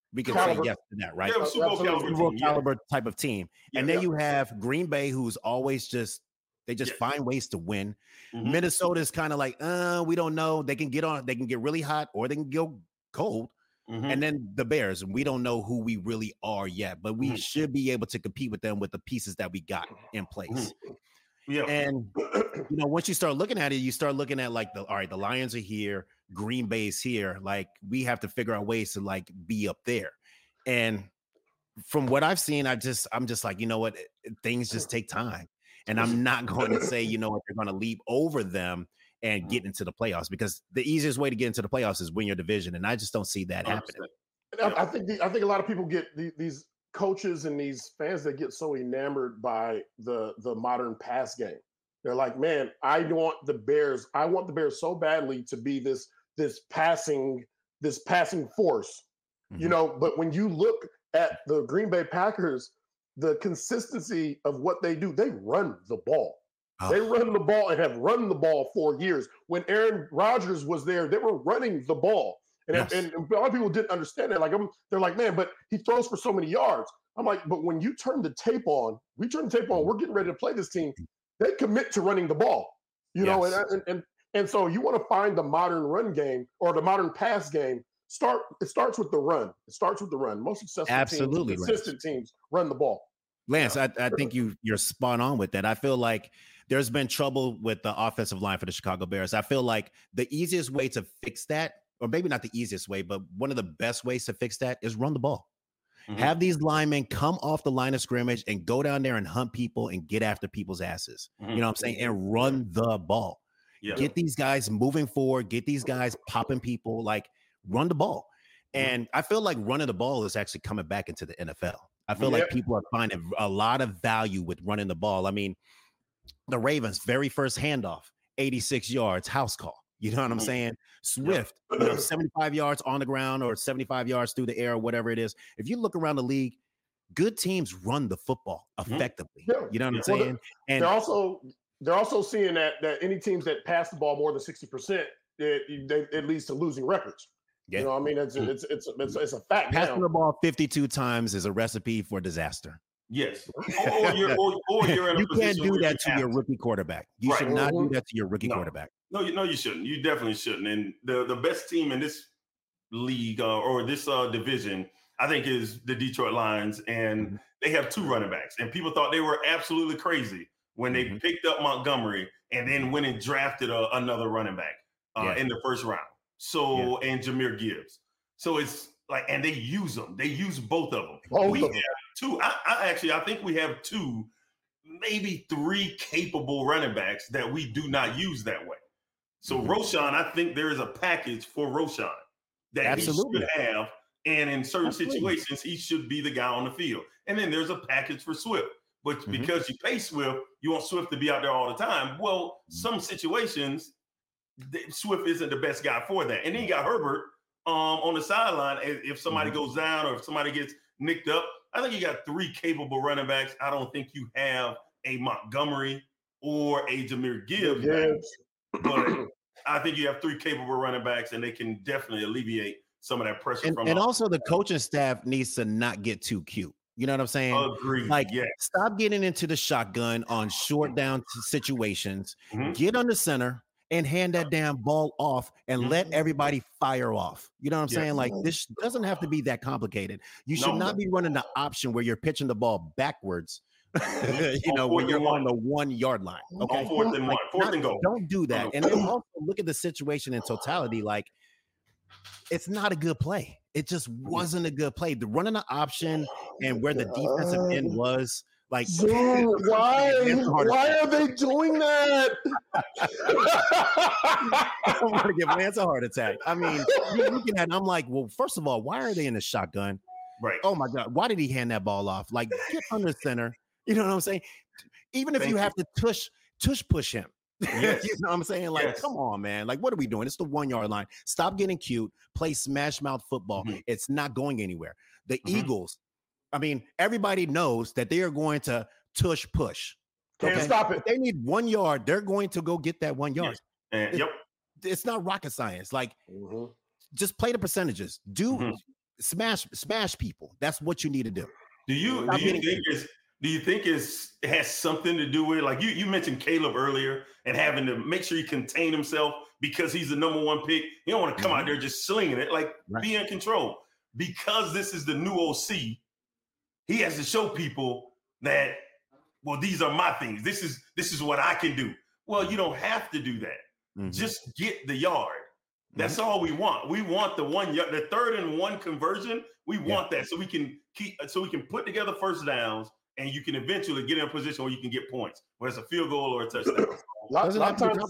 We can Caliber. say yes to that, right? They're a Super Bowl caliber Super Bowl team, yeah. caliber type of team. Yeah, and then yeah. you have Green Bay, who's always just they just Yes. find ways to win. Mhm. Minnesota's kind of like, uh, we don't know. They can get on, they can get really hot or they can go cold. Mhm. And then the Bears, we don't know who we really are yet, but we Mhm. should be able to compete with them with the pieces that we got in place. Yeah. And you know, once you start looking at it, you start looking at like the all right, the Lions are here, Green Bay's here. Like we have to figure out ways to like be up there. And from what I've seen, I just I'm just like, you know what, things just take time. And I'm not going to say, you know what, they're going to leap over them and get into the playoffs because the easiest way to get into the playoffs is win your division. And I just don't see that happening. And I, I think the, I think a lot of people get the, these coaches and these fans that get so enamored by the the modern pass game. They're like, man, I want the Bears. I want the Bears so badly to be this this passing this passing force, Mm-hmm. you know. But when you look at the Green Bay Packers, the consistency of what they do, they run the ball. Oh. They run the ball and have run the ball for years. When Aaron Rodgers was there, they were running the ball. And, Yes. and, and a lot of people didn't understand that. Like, I'm, they're like, man, but he throws for so many yards. I'm like, but when you turn the tape on, we turn the tape on, we're getting ready to play this team. They commit to running the ball, you know, Yes. and, and and and so you want to find the modern run game or the modern pass game. Start. It starts with the run. It starts with the run. Most successful Absolutely, teams, consistent teams, run the ball. Lance, I, I think you you're spot on with that. I feel like there's been trouble with the offensive line for the Chicago Bears. I feel like the easiest way to fix that, or maybe not the easiest way, but one of the best ways to fix that is run the ball. Mhm. Have these linemen come off the line of scrimmage and go down there and hunt people and get after people's asses. Mhm. You know what I'm saying? And run the ball. Yeah. Get these guys moving forward. Get these guys popping people. Like run the ball. And I feel like running the ball is actually coming back into the N F L. I feel like Yep. people are finding a lot of value with running the ball. I mean, the Ravens' very first handoff, eighty-six yards, house call. You know what I'm Mhm. saying? Swift, you know, seventy-five yards on the ground or seventy-five yards through the air or whatever it is. If you look around the league, good teams run the football effectively. Yeah. You know what I'm Yeah. Well, saying? And They're also they're also seeing that that any teams that pass the ball more than sixty percent, it, they, it leads to losing records. Yeah. You know what I mean? It's it's it's it's, it's a fact passing now. the ball fifty-two times is a recipe for disaster. Yes. Or, or you're, or, or you're in a You can't position do where that you to have your rookie quarterback. You Right. should not do Mhm. that to your rookie No. quarterback. No, you no, you shouldn't. You definitely shouldn't. And the the best team in this league uh, or this uh, division, I think, is the Detroit Lions, and Mhm. they have two running backs. And people thought they were absolutely crazy when they Mhm. picked up Montgomery and then went and drafted a, another running back uh, Yeah. in the first round. So and Jahmyr Gibbs. So it's like, and they use them. They use both of them. Both we of them. have two. I, I actually, I think we have two, maybe three capable running backs that we do not use that way. So Mhm. Roshan, I think there is a package for Roshan that Absolutely. he should have, and in certain Absolutely. situations, he should be the guy on the field. And then there's a package for Swift, but Mhm. because you pay Swift, you want Swift to be out there all the time. Well, Mhm. some situations, th- Swift isn't the best guy for that. And then you got Herbert um, on the sideline. If if somebody Mhm. goes down or if somebody gets nicked up, I think you got three capable running backs. I don't think you have a Montgomery or a Jahmyr Gibbs, Gibbs. but I think you have three capable running backs, and they can definitely alleviate some of that pressure And, from. and uh, also the coaching staff needs to not get too cute. You know what I'm saying? Agreed. Like, yeah. stop getting into the shotgun on short down t- situations. Mhm. Get on the center and hand that damn ball off and Mhm. let everybody fire off. You know what I'm Yeah. saying? Like, this doesn't have to be that complicated. You should No. not be running the option where you're pitching the ball backwards, you On know, fourth when you're and on one. the one yard line. Okay. On fourth and Like, one, fourth not- and goal. Don't do that. And then also look at the situation in totality. Like, it's not a good play. It just wasn't a good play. The running the option and where the defensive end was, like, Dude, why? It's a heart Why attack. are they doing that? I want to give Lance a heart attack. I mean, you're looking at, I'm like, well, first of all, why are they in the shotgun? Right. Oh my God, why did he hand that ball off? Like, get under center. You know what I'm saying? Even if Thank you you. have to tush, tush push him. Yes. You know what I'm saying? Like, Yes. come on, man. Like, what are we doing? It's the one yard line. Stop getting cute. Play smash mouth football. Mhm. It's not going anywhere. The Mhm. Eagles, I mean, everybody knows that they are going to tush push. Can't Okay? stop it. If they need one yard, they're going to go get that one yard. Yes. And It- yep. It's not rocket science. Like, Mhm. just play the percentages. Do Mhm. smash smash people. That's what you need to do. Do you do you think it's do you think it's it has something to do with, like you you mentioned Caleb earlier and having to make sure he contain himself because he's the number one pick. You don't want to come mm-hmm. out there just slinging it, like right. be in control. Because this is the new O C, he has to show people that, well, these are my things. This is this is what I can do. Well, you don't have to do that. Mm-hmm. Just get the yard. That's mm-hmm. all we want. We want the one yard, the third and one conversion. We want yeah. that so we can keep so we can put together first downs and you can eventually get in a position where you can get points, whether it's a field goal or a touchdown. a lot, lot of times,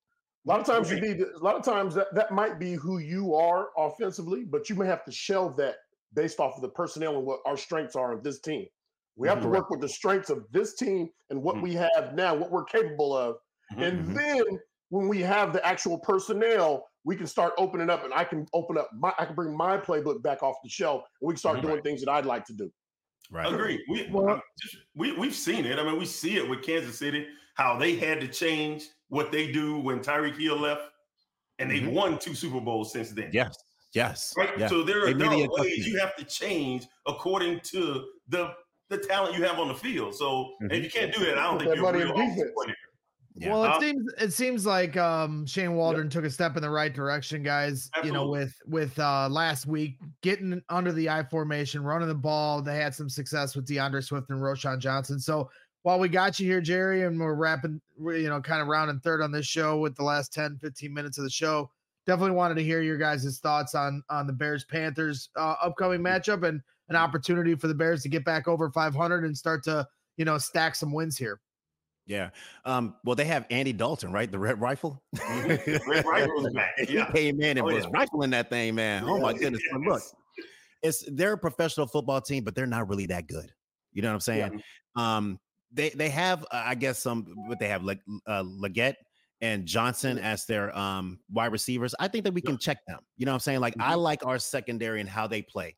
a lot of times you need a lot of times that, that might be who you are offensively, but you may have to shelve that based off of the personnel and what our strengths are of this team. We have mm-hmm. to work with the strengths of this team and what mm-hmm. we have now, what we're capable of. Mm-hmm. And then when we have the actual personnel, we can start opening up, and I can open up my, I can bring my playbook back off the shelf, and we can start mm-hmm. doing things that I'd like to do. Right. Agree. We, well, just, we, we've seen it. I mean, we see it with Kansas City, how they had to change what they do when Tyreek Hill left, and they've mm-hmm. won two Super Bowls since then. Yes. Yes. Right. Yeah. So there are, there are ways you have to change according to the the talent you have on the field. So mm-hmm. if you can't do that, I don't think you're real player. Yeah. Well, it uh, seems it seems like um, Shane Waldron yep. took a step in the right direction, guys. Absolutely. You know, with with uh, last week getting under the I formation, running the ball. They had some success with DeAndre Swift and Roschon Johnson. So while we got you here, Jerry, and we're wrapping, you know, kind of rounding third on this show with the last ten, fifteen minutes of the show, definitely wanted to hear your guys' thoughts on on the Bears Panthers uh, upcoming matchup and an opportunity for the Bears to get back over five hundred and start to, you know, stack some wins here. Yeah. Um, well, they have Andy Dalton, right? The Red Rifle. Red Rifle was back. Yeah. He came in and oh, was yeah. rifling that thing, man. Oh my goodness. Yes. Look, it's they're a professional football team, but they're not really that good. You know what I'm saying? Yeah. Um, they they have, uh, I guess, some what they have, like uh, Leggett and Johnson yeah. as their um wide receivers. I think that we can yeah. check them. You know what I'm saying? Like, mm-hmm. I like our secondary and how they play.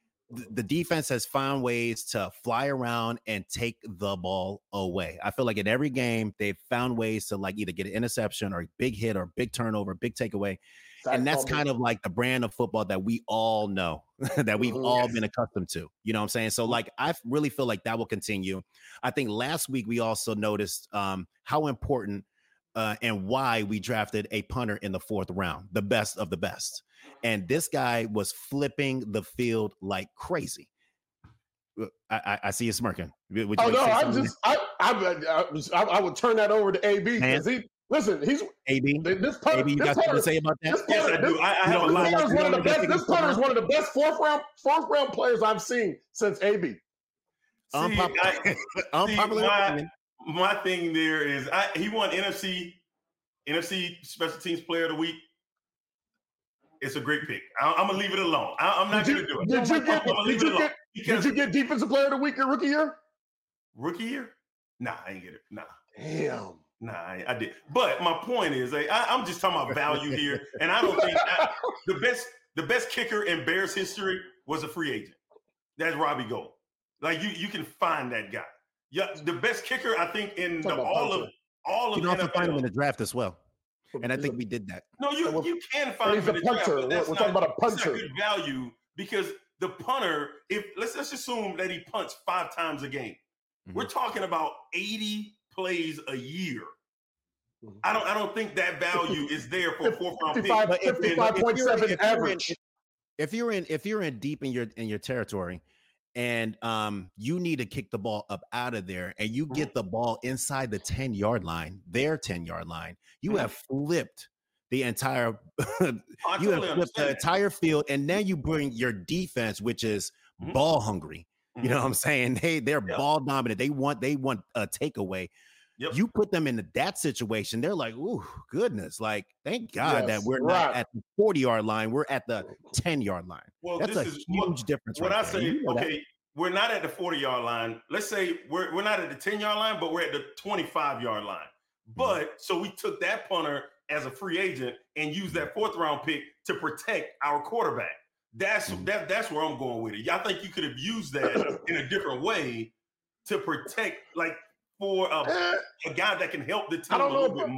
The defense has found ways to fly around and take the ball away. I feel like in every game, they've found ways to like either get an interception or a big hit or big turnover, big takeaway. That's and that's kind of like the brand of football that we all know, that we've mm-hmm. all been accustomed to. You know what I'm saying? So like, I really feel like that will continue. I think last week we also noticed um, how important uh, and why we drafted a punter in the fourth round, the best of the best. And this guy was flipping the field like crazy. I, I, I see you smirking. Would you oh no, I just I I, I I would turn that over to A B because he listen. He's A B. This punter, A B, you this got something to say about that? This punter, yes, I do. This, I, I have this a lot. Punter is one of the best. This punter is one of the best fourth round fourth round players I've seen since A B. See, Unpopular. I, Unpopular see, my, my thing there is I, he won N F C N F C Special Teams Player of the Week. It's a great pick. I, I'm gonna leave it alone. I, I'm not did gonna you, do it. Did you get? Did you get, did you get Defensive Player of the Week your rookie year? Rookie year? Nah, I ain't get it. Nah. Damn. Nah, I, I did. But my point is, like, I, I'm just talking about value here, and I don't think I, the best the best kicker in Bears history was a free agent. That's Robbie Gould. Like you, you can find that guy. Yeah, the best kicker I think in the, all of all of you can also N F L. Find him in the draft as well. And I think we did that. No, you you can find him in the draft, but that's We're not, talking about a puncher. That's not good value because the punter, if let's let's assume that he punts five times a game, mm-hmm. we're talking about eighty plays a year. Mm-hmm. I don't I don't think that value is there for a fourth round pick. fifty-five point seven average. If you're in if you're in deep in your in your territory, and um, you need to kick the ball up out of there, and you get the ball inside the ten-yard line, their ten-yard line, you have flipped the entire you have flipped the entire field, and now you bring your defense, which is mm-hmm. ball hungry. Mm-hmm. You know what I'm saying? They they're yep. ball dominant. They want they want a takeaway. Yep. You put them into that situation, they're like, "Ooh, goodness! Like, thank God yes, that we're right. not at the forty-yard line; we're at the ten-yard line." Well, that's this a is huge what, difference. When right I there. say, you know okay, that. we're not at the forty-yard line. Let's say we're we're not at the ten-yard line, but we're at the twenty-five-yard line. But mm-hmm. so we took that punter as a free agent and used that fourth-round pick to protect our quarterback. That's mm-hmm. that. That's where I'm going with it. I think you could have used that in a different way to protect, like. For a, a guy that can help the team a little bit more.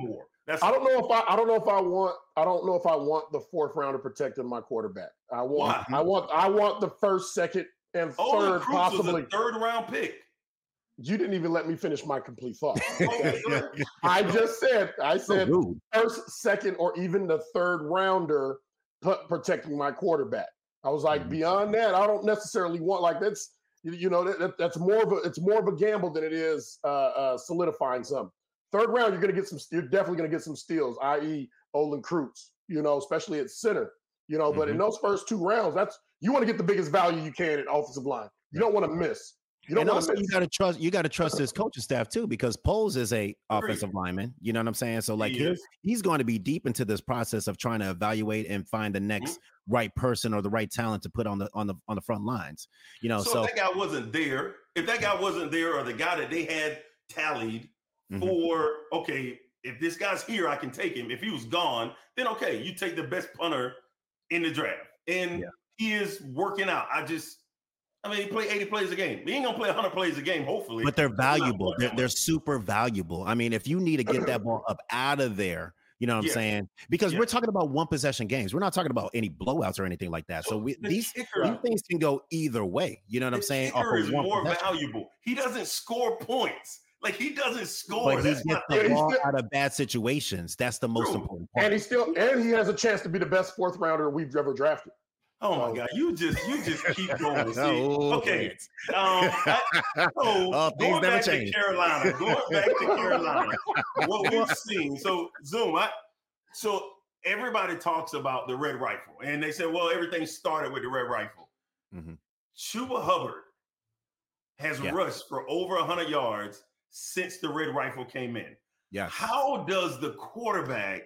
That's I don't know if I I don't know if I want I don't know if I want the fourth rounder protecting my quarterback. I want Why? I want I want the first, second, and Olin third Cruz possibly. was a third round pick. You didn't even let me finish my complete thought. Okay? I just said I said So first, second, or even the third rounder p- protecting my quarterback. I was like, Mhm. beyond that, I don't necessarily want like that's you, you know that, that- that's more of a it's more of a gamble than it is uh, uh, solidifying something. Third round, you're gonna get some. You're definitely gonna get some steals, that is, Olin Cruz. You know, especially at center. You know, but in those first two rounds, that's you want to get the biggest value you can at offensive line. You don't want to miss. You don't and want also, to miss. you got to trust. You got to trust his coaching staff too, because Poles is a offensive lineman. You know what I'm saying? So like, He he's is. he's going to be deep into this process of trying to evaluate and find the next right person or the right talent to put on the on the on the front lines. You know, So, so, if that guy wasn't there, if that guy wasn't there, or the guy that they had tallied Mhm. for, okay, if this guy's here, I can take him. If he was gone, then okay, you take the best punter in the draft, and Yeah. he is working out. I just, I mean, he play eighty plays a game. He ain't gonna play one hundred plays a game, hopefully. but they're He's not valuable. playing They're, that they're much. super valuable. I mean, if you need to get that ball up out of there, you know what I'm Yeah. saying? Because Yeah. we're talking about one possession games. We're not talking about any blowouts or anything like that. So So we, the these kicker- these things can go either way. You know what I'm The saying? Off kicker of is one more possession. valuable. He doesn't score points. Like he doesn't score. But he That's gets not the Yeah, he's ball still- out of bad situations. That's the most True. important part. And he still and he has a chance to be the best fourth rounder we've ever drafted. Oh my So- God! You just you just keep going. See, Oh, okay. Lance. Um, I, so Oh, things going never back change. to Carolina, going back to Carolina, what we've seen. So Zoom, I so everybody talks about the red rifle, and they say, well, everything started with the red rifle. Mhm. Chuba Hubbard has Yeah. rushed for over one hundred yards since the red rifle came in. Yeah. How does the quarterback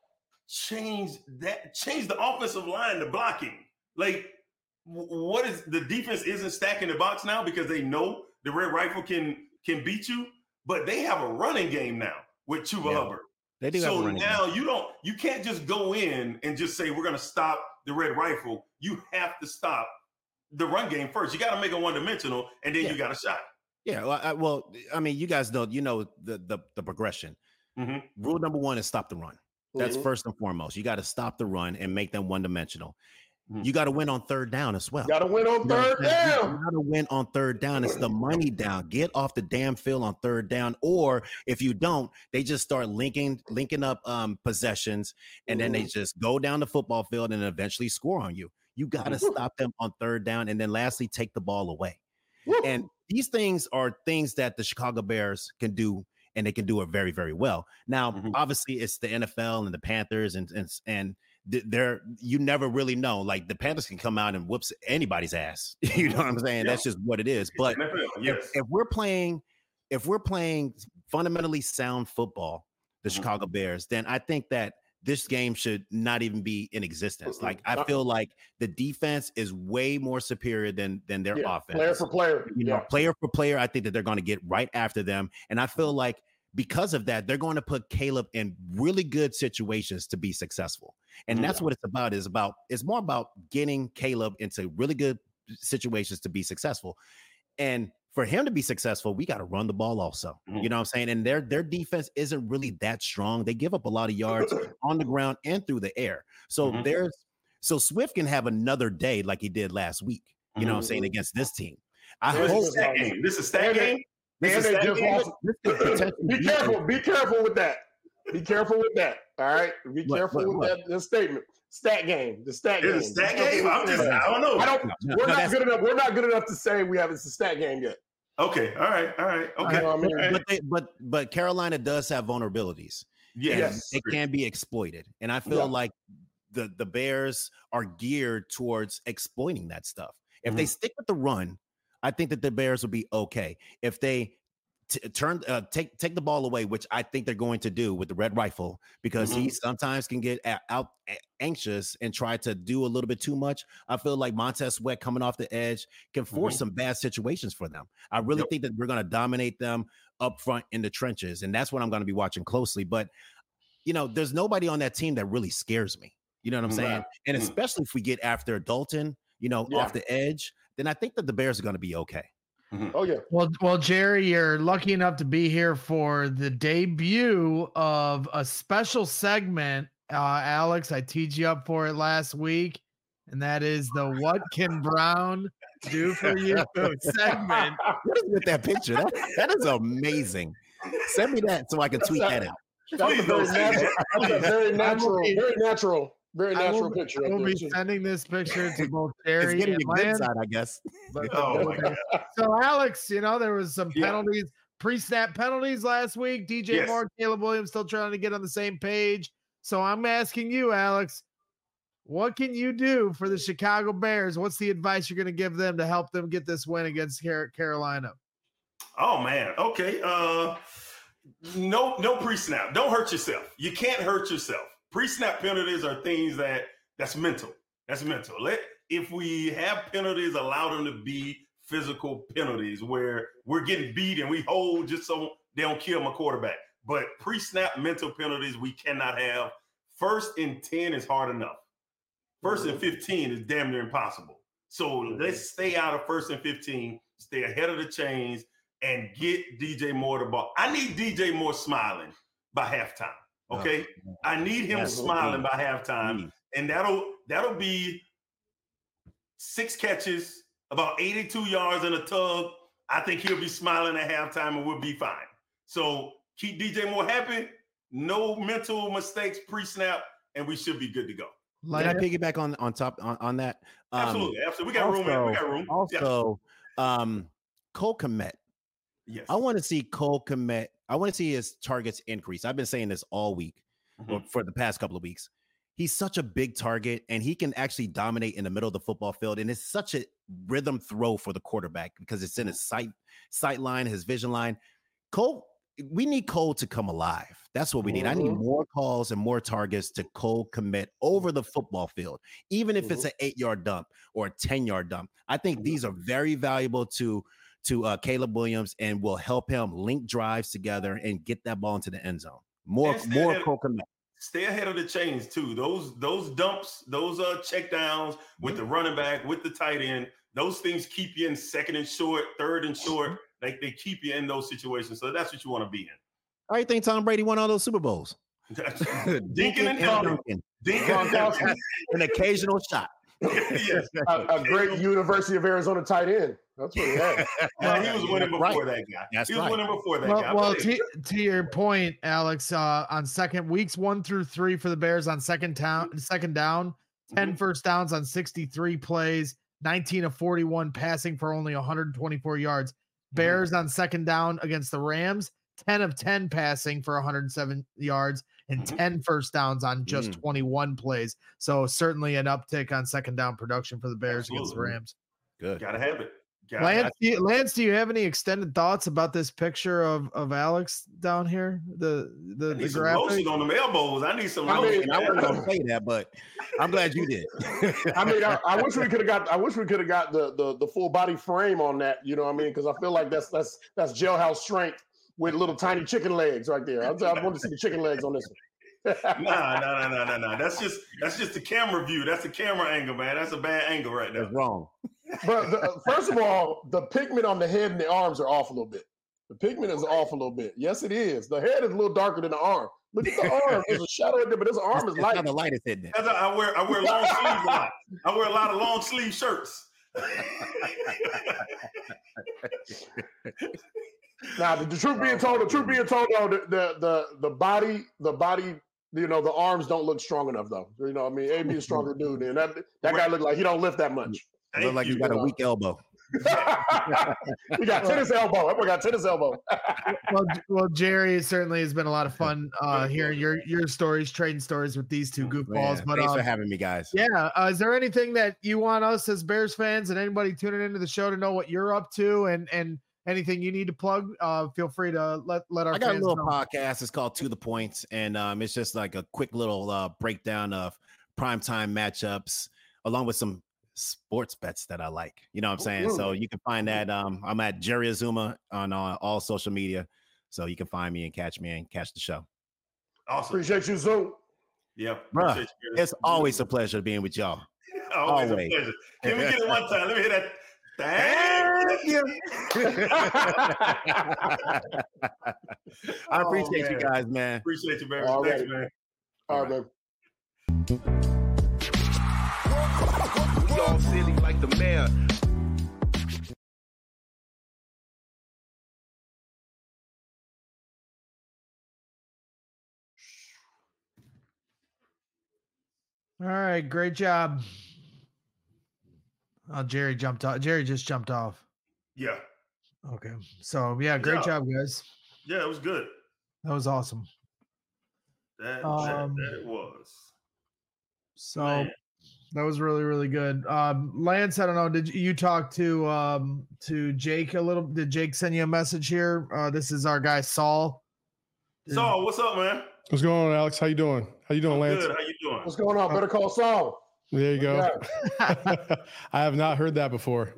change that? Change the offensive line, the blocking? Like, w- what is the defense isn't stacking the box now because they know the red rifle can can beat you, but they have a running game now with Chuba Yeah. Hubbard. They do have a So running now game. you don't you can't just go in and just say we're going to stop the red rifle. You have to stop the run game first. You got to make it one dimensional, and then Yeah. you got a shot. Yeah. Well I, well, I mean, you guys know, you know, the the, the progression. Mhm. Rule number one is stop the run. That's Mhm. first and foremost. You got to stop the run and make them one dimensional. Mhm. You got to win on third down as well. Got to win on You know what third I'm saying? You- down. You got to win on third down. It's the money down. Get off the damn field on third down. Or if you don't, they just start linking linking up um, possessions, and then they just go down the football field and eventually score on you. You got to Mhm. stop them on third down, and then lastly, take the ball away. Woo. And these things are things that the Chicago Bears can do, and they can do it very, very well. Now, Mhm. obviously, it's the N F L and the Panthers, and and and th- they're you never really know. Like the Panthers can come out and whoops anybody's ass. You know what I'm saying? Yeah. That's just what it is. But N F L, if, yes. if we're playing, if we're playing fundamentally sound football, the Mhm. Chicago Bears, then I think that this game should not even be in existence. Like I Uh-uh. feel like the defense is way more superior than than their Yeah, offense. player for player. You know, Yeah. player for player, I think that they're going to get right after them. And I feel like because of that, they're going to put Caleb in really good situations to be successful. And Mhm. that's what it's about, is about, it's more about getting Caleb into really good situations to be successful. And for him to be successful, we got to run the ball also. Mhm. You know what I'm saying? And their their defense isn't really that strong. They give up a lot of yards on the ground and through the air. So Mhm. there's so Swift can have another day like he did last week, you know what I'm saying, Mhm. against this team. I This hope is a stat game. This is a stat And they- game. This And is they stat just game. lost. this could potentially Be be careful. Be careful with that. Be careful with that. All right. Be What, careful what, with what? that, that statement. Stat game. The stat game. It's a stat game. I'm just, I don't know. I don't. No, We're no, not that's- good enough. We're not good enough to say we have it's a stat game yet. Okay. All right. All right. Okay. You know what I mean? All right. But they, but but Carolina does have vulnerabilities. and Yes. they can be exploited. And I feel Yeah. like the the Bears are geared towards exploiting that stuff. If they Mhm. stick with the run, I think that the Bears will be okay. If they t- turn uh, take take the ball away, which I think they're going to do with the red rifle, because he sometimes can get a- out a- anxious and try to do a little bit too much. I feel like Montez Sweat coming off the edge can force Mhm. some bad situations for them. I really Yep. think that we're going to dominate them up front in the trenches, and that's what I'm going to be watching closely. But you know, there's nobody on that team that really scares me. You know what I'm Right. saying? And Mm. especially if we get after Dalton, you know, Yeah. off the edge, then I think that the Bears are going to be okay. Mm-hmm. Oh yeah. Well, well, Jerry, you're lucky enough to be here for the debut of a special segment. Uh, Alex, I teed you up for it last week, and that is the "What Can Brown Do for You" segment. What is with that picture? That, that is amazing. Send me that so I can tweet that out. That's a very natural, that's a very natural, very natural, very natural will, picture. We'll be sending this picture to both Jerry it's getting and a good Lance. side, I guess. But, oh my God. So, Alex, you know, there was some penalties, yeah. pre-snap penalties last week. D J yes. Moore, Caleb Williams still trying to get on the same page. So I'm asking you, Alex, what can you do for the Chicago Bears? What's the advice you're going to give them to help them get this win against Carolina? Oh, man. Okay. Uh, no, no pre-snap. Don't hurt yourself. You can't hurt yourself. Pre-snap penalties are things that that's mental. That's mental. Let if we have penalties, allow them to be physical penalties where we're getting beat and we hold just so they don't kill my quarterback. But pre-snap mental penalties we cannot have. First and ten is hard enough. First and fifteen is damn near impossible. So let's stay out of first and fifteen, stay ahead of the chains, and get D J Moore the ball. I need D J Moore smiling by halftime. Okay, oh, I need him yeah, smiling by halftime, mm. and that'll that'll be six catches, about eighty-two yards in a tug. I think he'll be smiling at halftime, and we'll be fine. So keep D J Moore happy. No mental mistakes pre-snap, and we should be good to go. Can I piggyback on on top on, on that? Um, absolutely, absolutely. We got also, room. In. We got room. Also, yeah. um, Cole Kmet. Yes, I want to see Cole Kmet. I want to see his targets increase. I've been saying this all week, mm-hmm. or for the past couple of weeks. He's such a big target, and he can actually dominate in the middle of the football field. And it's such a rhythm throw for the quarterback because it's in his sight sight line, his vision line. Cole. We need Cole to come alive. That's what we need. Mm-hmm. I need more calls and more targets to Cole Kmet over the football field, even if mm-hmm. it's an eight-yard dump or a ten-yard dump. I think mm-hmm. these are very valuable to, to uh, Caleb Williams and will help him link drives together and get that ball into the end zone. More, more Cole Kmet. Stay ahead of the chains, too. Those those dumps, those uh, check downs with the running back, with the tight end, those things keep you in second and short, third and short. Like they keep you in those situations. So that's what you want to be in. How do you think Tom Brady won all those Super Bowls? Dinking and Duncan. Dinking and Duncan. An occasional shot. Yes. a, a great University of Arizona tight end. That's what he had. Well, he was winning before right. that guy. That's he was right. winning before that well, guy. Well, to, to your point, Alex, uh, on second weeks one through three for the Bears on second down, second down, ten mm-hmm. first downs on sixty-three plays, nineteen of forty-one passing for only one hundred twenty-four yards. Bears on second down against the Rams, ten of ten passing for one hundred seven yards and ten first downs on just mm. twenty-one plays. So certainly an uptick on second down production for the Bears Absolutely. against the Rams. Good. Gotta have it. Gotta Lance, have do you, Lance, do you have any extended thoughts about this picture of, of Alex down here? The the, I need the some graphic? lotion on them elbows. I need some I lotion. Mean, I wasn't gonna say that, but I'm glad you did. I mean, I, I wish we could have got. I wish we could have got the, the the full body frame on that. You know what I mean? Because I feel like that's that's that's jailhouse strength with little tiny chicken legs right there. I, I want to see the chicken legs on this one. nah, nah, nah, nah, nah, nah. That's just that's just the camera view. That's the camera angle, man. That's a bad angle right there. That's wrong. But the, first of all, the pigment on the head and the arms are off a little bit. The pigment is off a little bit. Yes, it is. The head is a little darker than the arm. Look at the arm. There's a shadow right there, but this arm is light. The light is hidden. That's a, I wear I wear long sleeves a lot. I wear a lot of long sleeve shirts. Now, the, the truth being told, the truth being told, though, the, the the the body, the body, you know, the arms don't look strong enough, though. You know, what I mean, A B is a stronger dude, and that that guy look like he don't lift that much. It look like you got a weak elbow. You got tennis elbow. Everyone got tennis elbow. well, well, Jerry, it certainly has been a lot of fun uh, hearing your your stories, trading stories with these two goofballs. Man, but thanks um, for having me, guys. Yeah, uh, is there anything that you want us as Bears fans and anybody tuning into the show to know what you're up to, and and anything you need to plug? Uh, feel free to let let our. I got fans a little know. podcast. It's called To the Points, and um, it's just like a quick little uh, breakdown of primetime matchups, along with some sports bets that I like. You know what I'm saying? Ooh. So you can find that. Um, I'm at Jerry Azuma on uh, all social media. So you can find me and catch me and catch the show. Awesome. Appreciate you, Zoom. Yeah. Bruh, it's always a pleasure being with y'all. always, always a pleasure. Can we get it one time? Let me hear that. Thank you. I appreciate oh, you guys, man. Appreciate you, man. All Thanks, right. man. All All right, right. babe. We all silly like the mayor. All right, great job. Oh, Jerry jumped off. Jerry just jumped off. Yeah. Okay. So yeah, great Yeah. job, guys. Yeah, it was good. That was awesome. That, Um, that, that it was. So Man. that was really, really good. Um, Lance, I don't know. Did you, you talk to um to Jake a little? Did Jake send you a message here? Uh, this is our guy Saul. Did- Saul, what's up, man? What's going on, Alex? How you doing? How you doing, Lance? Good. How you doing? What's going on? Better call Saul. There you go. Yeah. I have not heard that before.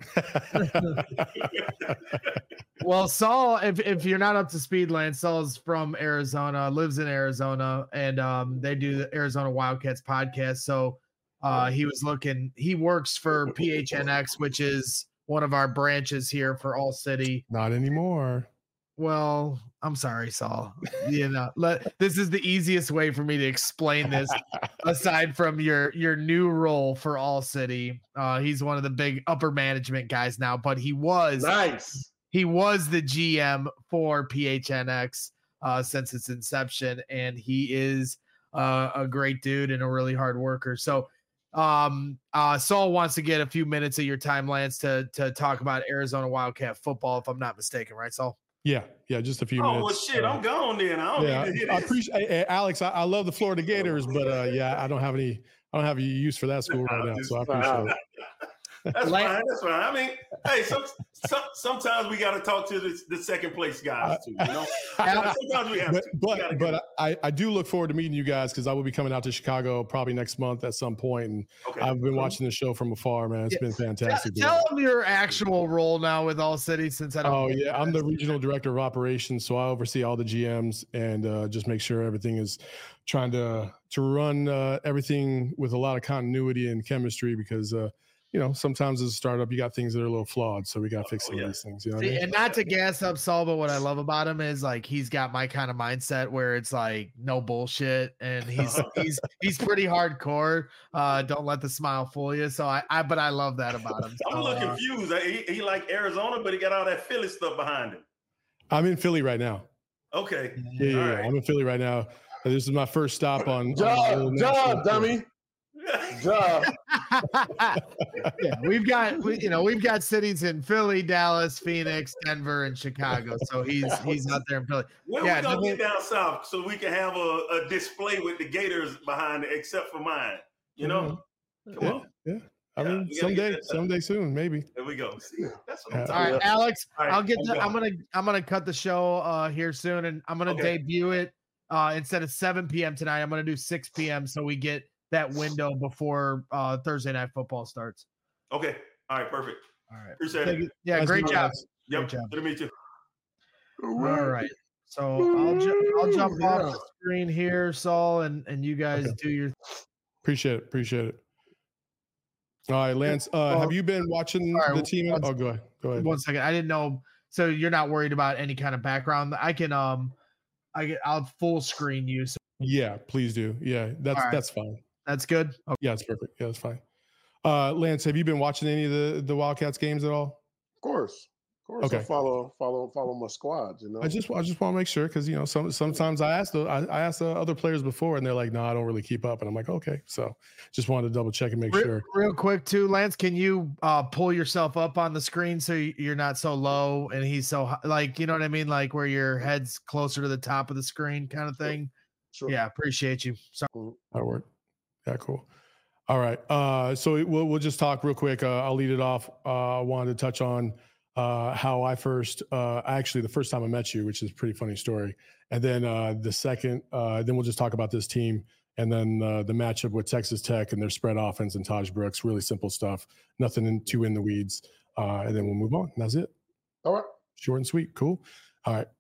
Well, Saul, if if you're not up to speed, Lance, Saul's from Arizona, lives in Arizona, and um, they do the Arizona Wildcats podcast. So uh, he was looking. He works for P H N X, which is one of our branches here for All City. Not anymore. Well, I'm sorry, Saul. You know, let, this is the easiest way for me to explain this. Aside from your your new role for All City, uh, he's one of the big upper management guys now, but he was Nice. he was the G M for P H N X uh, since its inception, and he is uh, a great dude and a really hard worker. So, um, uh, Saul wants to get a few minutes of your time, Lance, to to talk about Arizona Wildcat football, if I'm not mistaken, right, Saul? Yeah, yeah, just a few Oh, minutes. well, shit, Uh, I'm gone then. I don't yeah, need to hear I this. appreciate hey, hey, Alex. I, I love the Florida Gators, but uh, yeah, I don't have any. I don't have any use for that school right now, so I appreciate it. That's Like- fine. That's fine. I mean, hey, some, some, sometimes we got to talk to the, the second place guys too. You know, sometimes we have But to. We but, gotta but get- I, I do look forward to meeting you guys because I will be coming out to Chicago probably next month at some point, and okay. I've been watching the show from afar, man. It's Yeah. been fantastic. Tell him your actual role now with All City, since I don't. Oh yeah, I'm the regional director of operations, so I oversee all the G Ms and uh, just make sure everything is trying to to run uh, everything with a lot of continuity and chemistry because uh, you know sometimes as a startup you got things that are a little flawed, so we got to fix some Oh, yeah. of these things. You know what I See, mean? and not to gas up Saul, but what I love about him is like he's got my kind of mindset where it's like no bullshit, and he's he's he's pretty hardcore. Uh, don't let the smile fool you. So I, I but I love that about him. I'm a So, little uh, confused. He, he like Arizona, but he got all that Philly stuff behind him. I'm in Philly right now. Okay. Yeah, yeah, All yeah. right. I'm in Philly right now. Uh, This is my first stop on. on the Job, little job, national tour. dummy. Job. yeah, we've got we, you know we've got cities in Philly, Dallas, Phoenix, Denver, and Chicago. So he's he's out there in Philly. When Yeah, we gonna no, get down south so we can have a, a display with the Gators behind it, except for mine? You know, come Yeah, on. yeah. I Yeah, mean, we gotta get someday, that done. someday soon, maybe. There we go. See, that's what I'm Yeah. talking All right, about. Alex, All right, I'll get. I'm The, gone. I'm gonna I'm gonna cut the show uh here soon, and I'm gonna Okay. debut it uh instead of seven p.m. tonight. I'm gonna do six p.m. so we get that window before uh Thursday night football starts. Okay. All right. Perfect. All right. Appreciate Thank it. you. Yeah, Nice great meeting you, job. Alex. Yep. Good job. Good to meet you. All right. So I'll ju- I'll jump off the screen here, Saul, and and you guys Okay. do your. Appreciate it. Appreciate it. All right, Lance. Uh, have you been watching All right, the team? one- Oh, go ahead. Go ahead. One second. I didn't know. So you're not worried about any kind of background. I can um, I get I'll full screen you. So Yeah, please do. Yeah, that's All right. that's fine. that's good. Okay. Yeah, it's perfect. Yeah, that's fine. Uh, Lance, have you been watching any of the the Wildcats games at all? Of course. Of course. I Okay. follow, follow, follow my squad, you know. I just I just want to make sure because you know some sometimes I asked the, I, I asked the other players before and they're like, no, I don't really keep up, and I'm like, okay, so just wanted to double check and make Real, sure. real quick too, Lance, can you uh pull yourself up on the screen so y- you're not so low and he's so hi- like, you know what I mean, like where your head's closer to the top of the screen kind of thing. Sure. Yeah, appreciate you. Sorry. That work. Yeah, cool. All right. Uh, so we'll we'll just talk real quick. Uh, I'll lead it off. Uh, I wanted to touch on uh, how I first, uh, actually the first time I met you, which is a pretty funny story, and then uh, the second, uh, then we'll just talk about this team, and then uh, the matchup with Texas Tech and their spread offense and Taj Brooks. Really simple stuff. Nothing in, too in the weeds. Uh, and then we'll move on. And that's it. All right. Short and sweet. Cool. All right.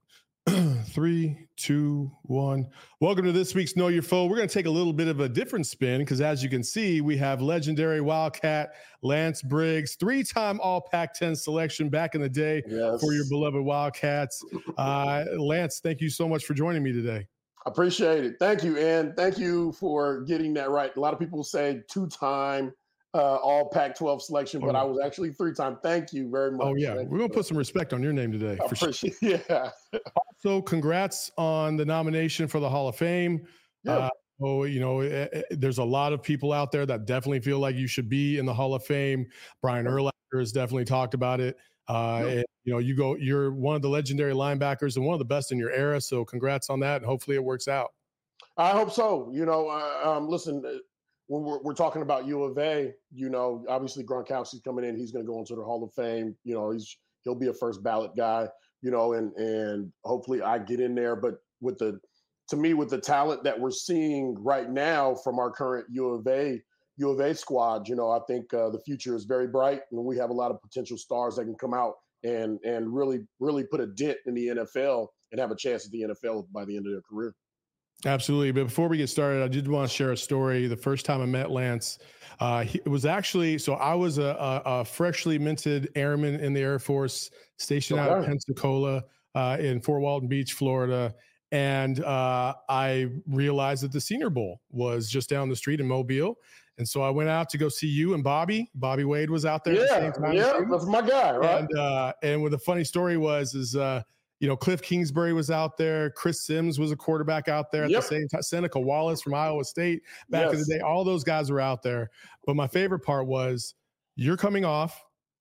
Three, two, one. Welcome to this week's Know Your Foe. We're going to take a little bit of a different spin because, as you can see, we have legendary Wildcat Lance Briggs, three-time All Pac ten selection back in the day yes. for your beloved Wildcats. Uh, Lance, thank you so much for joining me today. Appreciate it. Thank you, and thank you for getting that right. A lot of people say two-time uh, All Pac twelve selection, but oh, I was actually three-time. Thank you very much. Oh, yeah. Thank We're going to put some respect on your name today. I for appreciate sure. Yeah. Also, congrats on the nomination for the Hall of Fame. Yeah. Uh, oh, you know, it, it, there's a lot of people out there that definitely feel like you should be in the Hall of Fame. Brian Urlacher has definitely talked about it. Uh, yeah. and, you know, you go, you're one of the legendary linebackers and one of the best in your era. So congrats on that. And hopefully it works out. I hope so. You know, uh, um, listen, when we're, we're talking about U of A, you know, obviously Gronkowski's coming in. He's going to go into the Hall of Fame. You know, he's he'll be a first ballot guy. You know, and and hopefully I get in there. But with the, to me, with the talent that we're seeing right now from our current U of A U of A squad, you know, I think uh, the future is very bright, and we have a lot of potential stars that can come out and and really really put a dent in the N F L and have a chance at the N F L by the end of their career. Absolutely. But before we get started, I did want to share a story. The first time I met Lance, uh, he, it was actually, so I was a, a, a freshly minted airman in the Air Force stationed okay. out of Pensacola uh, in Fort Walton Beach, Florida. And uh, I realized that the Senior Bowl was just down the street in Mobile. And so I went out to go see you and Bobby. Bobby Wade was out there. Yeah, at the same time yeah, that's my guy, right? And, uh, and what the funny story was, is, uh, you know, Cliff Kingsbury was out there. Chris Sims was a quarterback out there at yep. the same time. Seneca Wallace from Iowa State back yes. in the day. All those guys were out there. But my favorite part was you're coming off,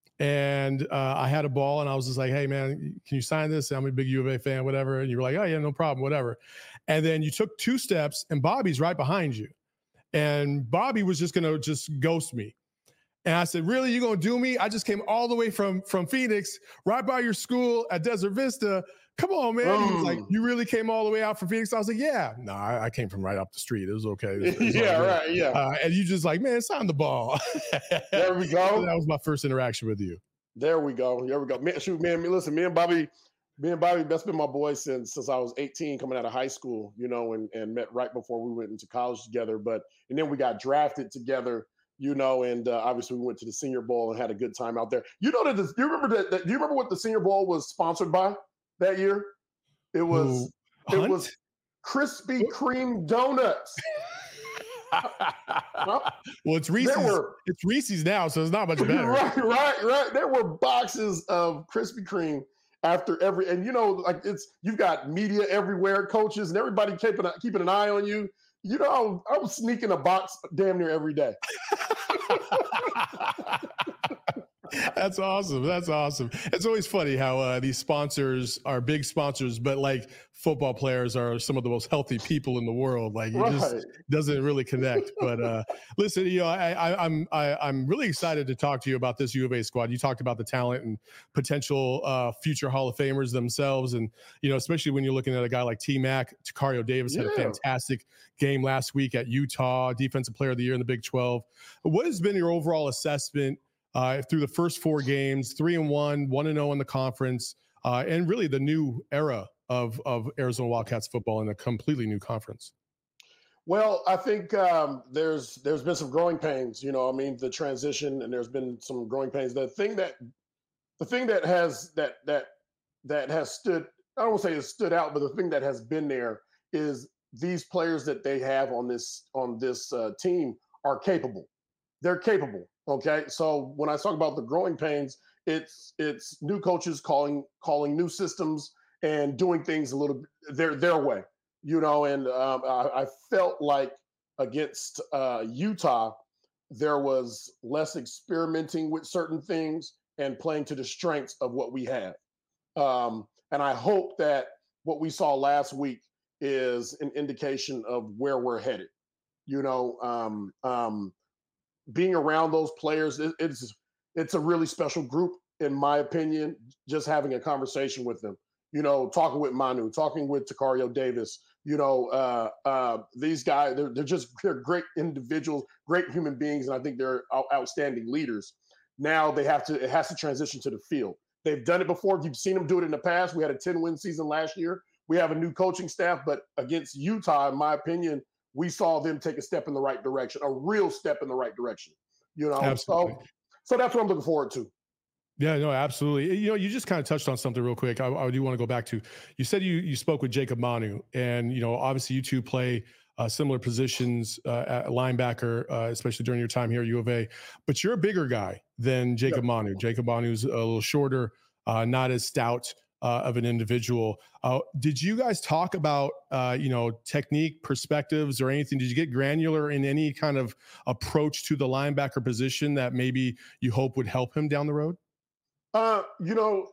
and uh, I had a ball, and I was just like, hey, man, can you sign this? I'm a big U of A fan, whatever. And you were like, oh, yeah, no problem, whatever. And then you took two steps, and Bobby's right behind you. And Bobby was just going to just ghost me. And I said, really, you going to do me? I just came all the way from, from Phoenix, right by your school at Desert Vista. Come on, man. Mm. He was like, you really came all the way out from Phoenix? I was like, yeah. No, I, I came from right up the street. It was okay. It was, it was yeah, right, yeah. Uh, and you just like, man, sign the ball. There we go. That was my first interaction with you. There we go. There we go. Man, shoot, man, listen, me and Bobby, me and Bobby, that's been my boy since since I was eighteen, coming out of high school, you know, and, and met right before we went into college together. But, and then we got drafted together. You know, and uh, obviously we went to the Senior Bowl and had a good time out there. You know that? This, do you remember that, that? Do you remember what the Senior Bowl was sponsored by that year? It was Ooh, it was Krispy Kreme donuts. Well, it's Reese's. Were, it's Reese's now, so it's not much better. Right, right, right. There were boxes of Krispy Kreme after every, and you know, like it's you've got media everywhere, coaches, and everybody keeping keeping an eye on you. You know, I was sneaking a box damn near every day. That's awesome. That's awesome. It's always funny how uh, these sponsors are big sponsors, but like football players are some of the most healthy people in the world. Like it right. just doesn't really connect. But uh, listen, you know, I, I, I'm I, I'm really excited to talk to you about this U of A squad. You talked about the talent and potential uh, future Hall of Famers themselves, and you know, especially when you're looking at a guy like T-Mac. Tacario Davis yeah. had a fantastic game last week at Utah, Defensive Player of the Year in the Big twelve. What has been your overall assessment Uh, through the first four games, three and one, one and zero in the conference, uh, and really the new era of of Arizona Wildcats football in a completely new conference? Well, I think um, there's there's been some growing pains. You know, I mean, the transition, and there's been some growing pains. The thing that the thing that has that that that has stood, I don't want to say has stood out, but the thing that has been there is these players that they have on this on this uh, team are capable. They're capable. Okay, so when I talk about the growing pains, it's it's new coaches calling calling new systems and doing things a little their their way, you know. And um, I, I felt like against uh, Utah, there was less experimenting with certain things and playing to the strengths of what we have. Um, and I hope that what we saw last week is an indication of where we're headed. You know. Um, um, Being around those players, it, it's it's a really special group, in my opinion. Just having a conversation with them, you know, talking with Manu, talking with Tacario Davis, you know, uh, uh, these guys, they're, they're just they're great individuals, great human beings, and I think they're out, outstanding leaders. Now they have to, it has to transition to the field. They've done it before. You've seen them do it in the past. We had a ten-win season last year we have a new coaching staff, but against Utah, in my opinion, we saw them take a step in the right direction, a real step in the right direction. You know, Absolutely. so so that's what I'm looking forward to. Yeah, no, absolutely. You know, you just kind of touched on something real quick. I, I do want to go back to. You said you you spoke with Jacob Manu, and you know, obviously you two play uh, similar positions uh, at linebacker, uh, especially during your time here at U of A. But you're a bigger guy than Jacob yeah. Manu. Jacob Manu's a little shorter, uh, not as stout uh, of an individual. Uh, did you guys talk about uh, you know, technique, perspectives, or anything? Did you get granular in any kind of approach to the linebacker position that maybe you hope would help him down the road? Uh, you know,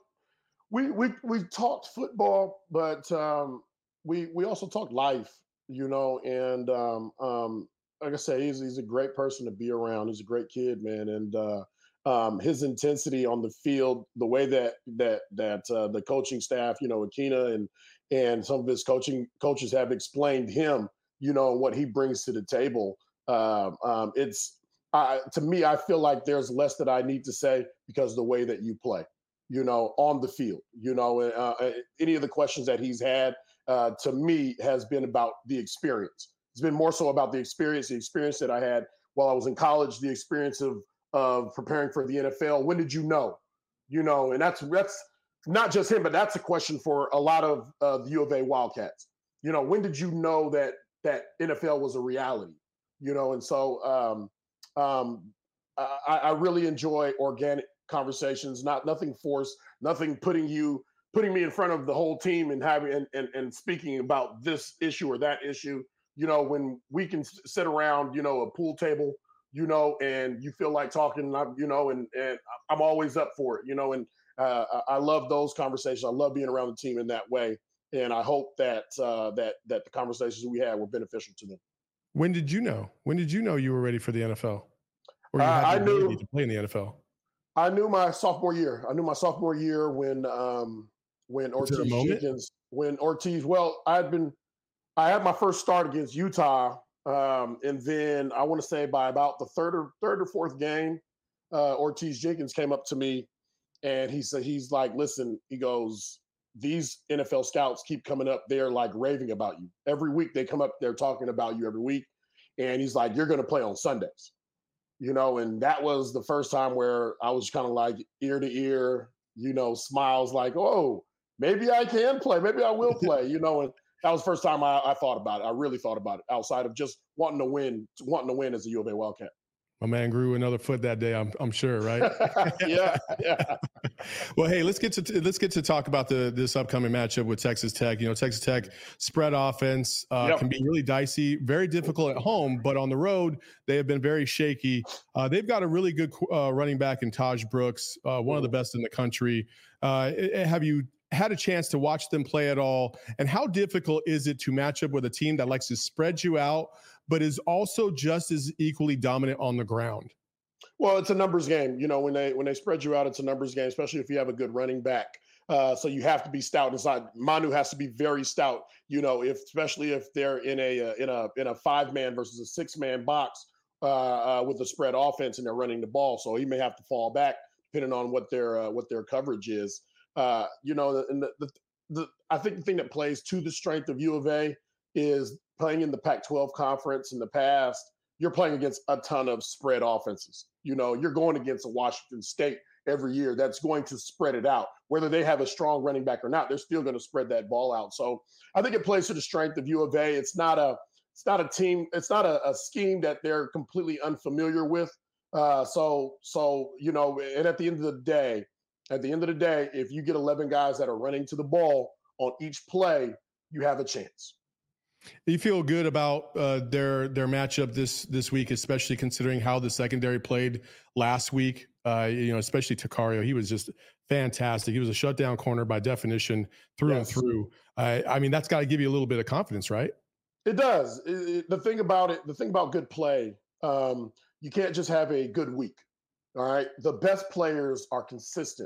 we we we talked football, but um, we we also talked life. You know, and um, um, like I say, he's he's a great person to be around. He's a great kid, man, and uh, um, his intensity on the field, the way that that that uh, the coaching staff, you know, Akina and and some of his coaching coaches have explained him, you know, what he brings to the table. Uh, um, it's Uh, to me, I feel like there's less that I need to say because of the way that you play, you know, on the field, you know, uh, any of the questions that he's had uh, to me has been about the experience. It's been more so about the experience, the experience that I had while I was in college, the experience of of preparing for the N F L. When did you know, you know, and that's that's not just him, but that's a question for a lot of uh, the U of A Wildcats. You know, when did you know that that N F L was a reality, you know, and so. Um, Um, I, I really enjoy organic conversations, not nothing forced, nothing putting you putting me in front of the whole team and having and, and, and speaking about this issue or that issue. You know, when we can sit around, you know, a pool table, you know, and you feel like talking, you know, and and I'm always up for it, you know, and uh, I love those conversations. I love being around the team in that way, and I hope that uh, that that the conversations we had were beneficial to them. When did you know? When did you know you were ready for the N F L? Or you uh, had the I knew to play in the N F L? I knew my sophomore year. I knew my sophomore year when um, when Ortiz Jenkins, when Ortiz. Well, I had been, I had my first start against Utah, um, and then I want to say by about the third or third or fourth game, uh, Ortiz Jenkins came up to me, and he said, he's like, "Listen," he goes, "These N F L scouts keep coming up there like raving about you. Every week they come up there talking about you every week," and he's like, "You're going to play on Sundays." You know, and that was the first time where I was kind of like ear to ear, you know, smiles like, oh, maybe I can play. Maybe I will play, you know, and that was the first time I, I thought about it. I really thought about it outside of just wanting to win, wanting to win as a U of A Wildcat. My man grew another foot that day. I'm I'm sure, right? yeah, yeah. Well, hey, let's get to let's get to talk about the this upcoming matchup with Texas Tech. You know, Texas Tech spread offense uh, yep. can be really dicey, very difficult at home, but on the road they have been very shaky. Uh, they've got a really good uh, running back in Taj Brooks, uh, one of the best in the country. Uh, have you had a chance to watch them play at all? And how difficult is it to match up with a team that likes to spread you out, but is also just as equally dominant on the ground? Well, it's a numbers game. You know, when they when they spread you out, it's a numbers game, especially if you have a good running back. Uh, so you have to be stout inside. Manu has to be very stout. You know, if especially if they're in a in a in a five man versus a six man box uh, uh, with a spread offense and they're running the ball. So he may have to fall back depending on what their uh, what their coverage is. Uh, you know, and the, the the I think the thing that plays to the strength of U of A is playing in the Pac twelve conference in the past. You're playing against a ton of spread offenses. You know, you're going against a Washington State every year that's going to spread it out. Whether they have a strong running back or not, they're still going to spread that ball out. So I think it plays to the strength of U of A. It's not a it's not a team. It's not a, a scheme that they're completely unfamiliar with. Uh, so so you know, and at the end of the day, at the end of the day, if you get eleven guys that are running to the ball on each play, you have a chance. You feel good about uh, their their matchup this this week, especially considering how the secondary played last week. Uh, you know, especially Takario, he was just fantastic. He was a shutdown corner by definition, through yes. and through. Uh, I mean, that's got to give you a little bit of confidence, right? It does. It, it, the thing about it, the thing about good play, um, you can't just have a good week. All right, the best players are consistent.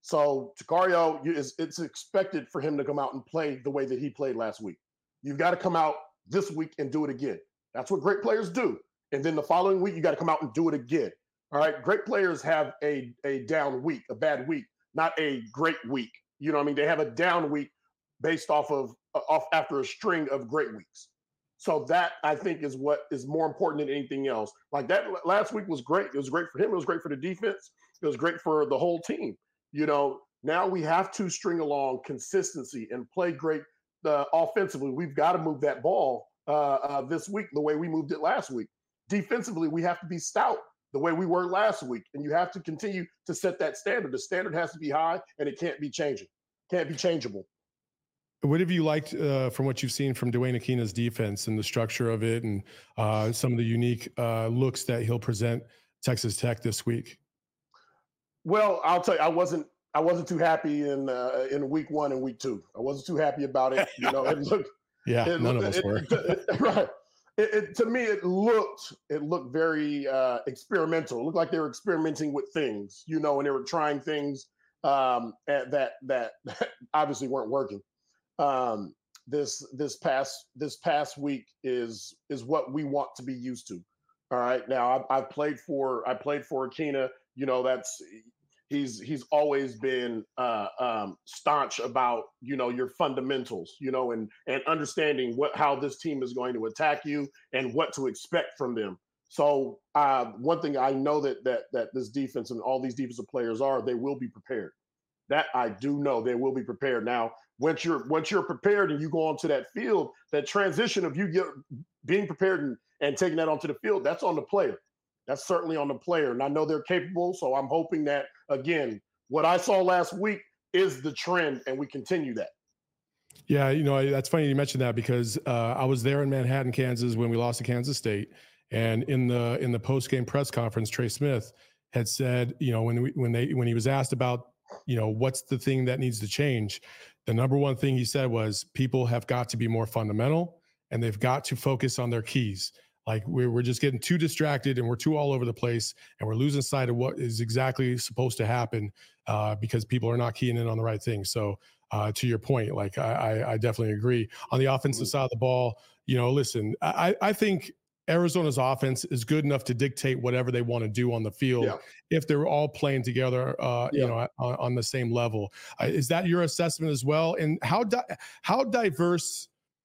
So Takario, is it's expected for him to come out and play the way that he played last week. You've got to come out this week and do it again. That's what great players do. And then the following week, you got to come out and do it again. All right. Great players have a, a down week, a bad week, not a great week. You know what I mean? They have a down week based off of off after a string of great weeks. So that I think is what is more important than anything else. Like that last week was great. It was great for him. It was great for the defense. It was great for the whole team. You know, now we have to string along consistency and play great uh, offensively. We've got to move that ball uh, uh, this week the way we moved it last week. Defensively, we have to be stout the way we were last week, and you have to continue to set that standard. The standard has to be high, and it can't be changing. Can't be changeable. What have you liked uh, from what you've seen from Dwayne Akina's defense and the structure of it, and uh, some of the unique uh, looks that he'll present Texas Tech this week? Well, I'll tell you, I wasn't I wasn't too happy in uh, in week one and week two. I wasn't too happy about it. You know, it looked yeah, it none looked, of us it, were it, it, right. It, it, to me, it looked it looked very uh, experimental. It looked like they were experimenting with things, you know, and they were trying things um, that that that obviously weren't working. Um, this this past this past week is is what we want to be used to. All right, now I've, I've played for I played for Akina. You know, that's he's he's always been uh, um, staunch about you know your fundamentals, you know, and and understanding what how this team is going to attack you and what to expect from them. So uh, one thing I know that that that this defense and all these defensive players are, they will be prepared. That I do know they will be prepared. Now, once you're once you're prepared and you go onto that field, that transition of you get, being prepared and, and taking that onto the field, that's on the player. That's certainly on the player. And I know they're capable. So I'm hoping that, again, what I saw last week is the trend and we continue that. Yeah, you know, that's funny you mentioned that because uh, I was there in Manhattan, Kansas when we lost to Kansas State. And in the in the post-game press conference, Trey Smith had said, you know, when we, when they when he was asked about, you know, what's the thing that needs to change, the number one thing he said was people have got to be more fundamental and they've got to focus on their keys. Like we're, we're just getting too distracted and we're too all over the place and we're losing sight of what is exactly supposed to happen uh, because people are not keying in on the right thing. So uh, to your point, like I, I definitely agree. On the offensive side of the ball, you know, listen, I, I think Arizona's offense is good enough to dictate whatever they want to do on the field yeah. if they're all playing together, uh, yeah. you know, on, on the same level. Uh, is that your assessment as well? And how di- how diverse?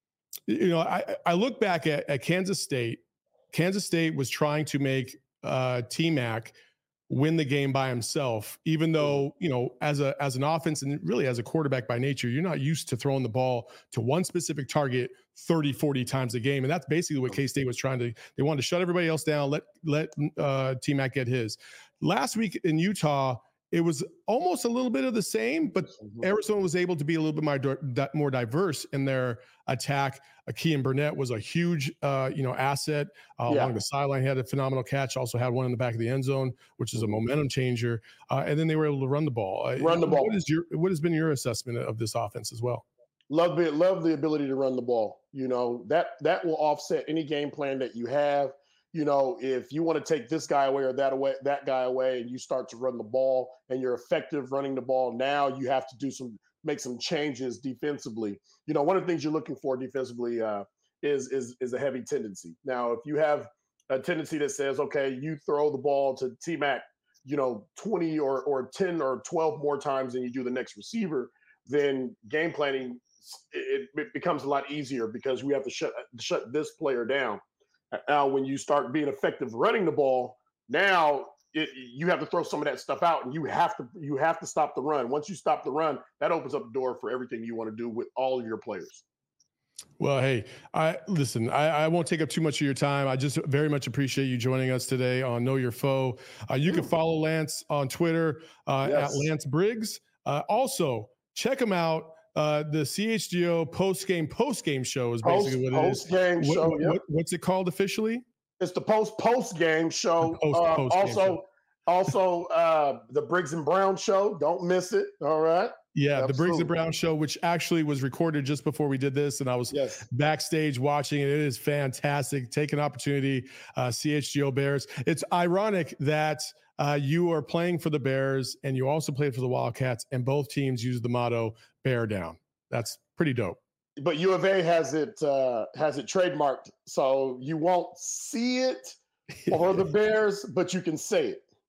You know, I I look back at, at Kansas State. Kansas State was trying to make uh, T-Mac win the game by himself, even though, you know, as a as an offense and really as a quarterback by nature, you're not used to throwing the ball to one specific target thirty, forty times a game. And that's basically what K-State was trying to, they wanted to shut everybody else down, let let uh, T-Mac get his. Last week in Utah, it was almost a little bit of the same, but Arizona was able to be a little bit more, more diverse in their attack. Kean Burnett was a huge, uh, you know, asset uh, yeah. along the sideline. He had a phenomenal catch. Also had one in the back of the end zone, which is a momentum changer. Uh, and then they were able to run the ball. Uh, run the ball. What is your what has been your assessment of this offense as well? Love it. Love the ability to run the ball. You know, that that will offset any game plan that you have. You know, if you want to take this guy away or that away, that guy away, and you start to run the ball and you're effective running the ball, now you have to do some, make some changes defensively. You know, one of the things you're looking for defensively uh, is, is, is a heavy tendency. Now, if you have a tendency that says, okay, you throw the ball to T-Mac, you know, twenty or, or ten or twelve more times than you do the next receiver, then game planning, it, it becomes a lot easier because we have to shut, shut this player down. Now, when you start being effective running the ball, now it, you have to throw some of that stuff out, and you have to you have to stop the run. Once you stop the run, that opens up the door for everything you want to do with all of your players. Well, hey, I listen. I, I won't take up too much of your time. I just very much appreciate you joining us today on Know Your Foe. Uh, you can follow Lance on Twitter uh, yes. at Lance Briggs. Uh, also, check him out. Uh, the C H G O post game post game show is basically post, what it post is. Game what, show. What, yep. what, what's it called officially? It's the post post game show. Post, uh, post also, show. also uh, the Briggs and Brown show. Don't miss it. All right. Yeah, Absolutely. The Briggs and Brown show, which actually was recorded just before we did this, and I was yes. backstage watching it. It is fantastic. Take an opportunity. Uh, C H G O Bears. It's ironic that uh, you are playing for the Bears and you also played for the Wildcats, and both teams use the motto "Bear Down." That's pretty dope. But U of A has it uh, has it trademarked, so you won't see it for the Bears, but you can say it.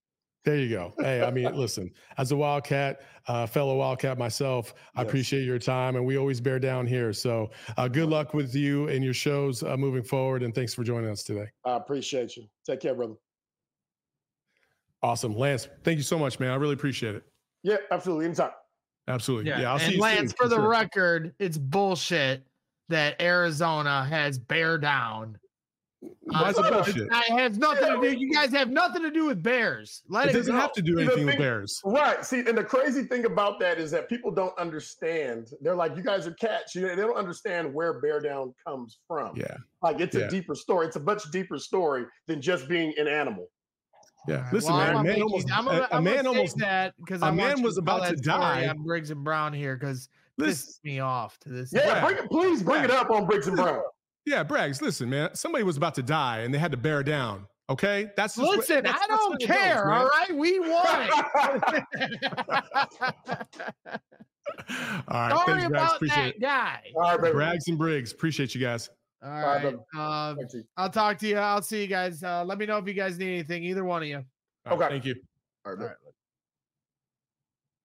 There you go. Hey, I mean, listen, as a Wildcat, uh, fellow Wildcat myself, I Yes. appreciate your time, and we always bear down here. So uh, good luck with you and your shows uh, moving forward, and thanks for joining us today. I appreciate you. Take care, brother. Awesome. Lance, thank you so much, man. I really appreciate it. Yeah, absolutely. Anytime. Absolutely. Yeah, Yeah, I'll see and you Lance, soon. for the sure. record, it's bullshit that Arizona has bear down. Why is it Uh, bullshit? It has nothing to do. You guys have nothing to do with bears. Let It it, doesn't go. have to do The anything with thing- Bears. Right. See, and the crazy thing about that is that people don't understand. They're like, you guys are cats. You know, they don't understand where bear down comes from. Yeah. Like it's Yeah. a deeper story. It's a much deeper story than just being an animal. Yeah. Alright, Listen, well, man, I'm a gonna man make almost, you- I'm a- gonna- a I'm gonna man say almost, that because a I man want you was to tell about that to story die. on Briggs and Brown here because listen, pisses me off to this. Yeah, Bragg. bring it, please bring it up on Briggs and Brown. yeah, Braggs, listen, man, somebody was about to die and they had to bear down. Okay. That's just what- Listen, that's- I that's don't what it care. goes, man. All right, we won. All right. Sorry Thanks, Braggs. about Appreciate that it. guy. All right, baby. Braggs and Briggs. Appreciate you guys. All right, right. brother. Um, Thank you. I'll talk to you. I'll see you guys. Uh, let me know if you guys need anything. Either one of you. All right, Okay. Thank you. All right, All baby. right.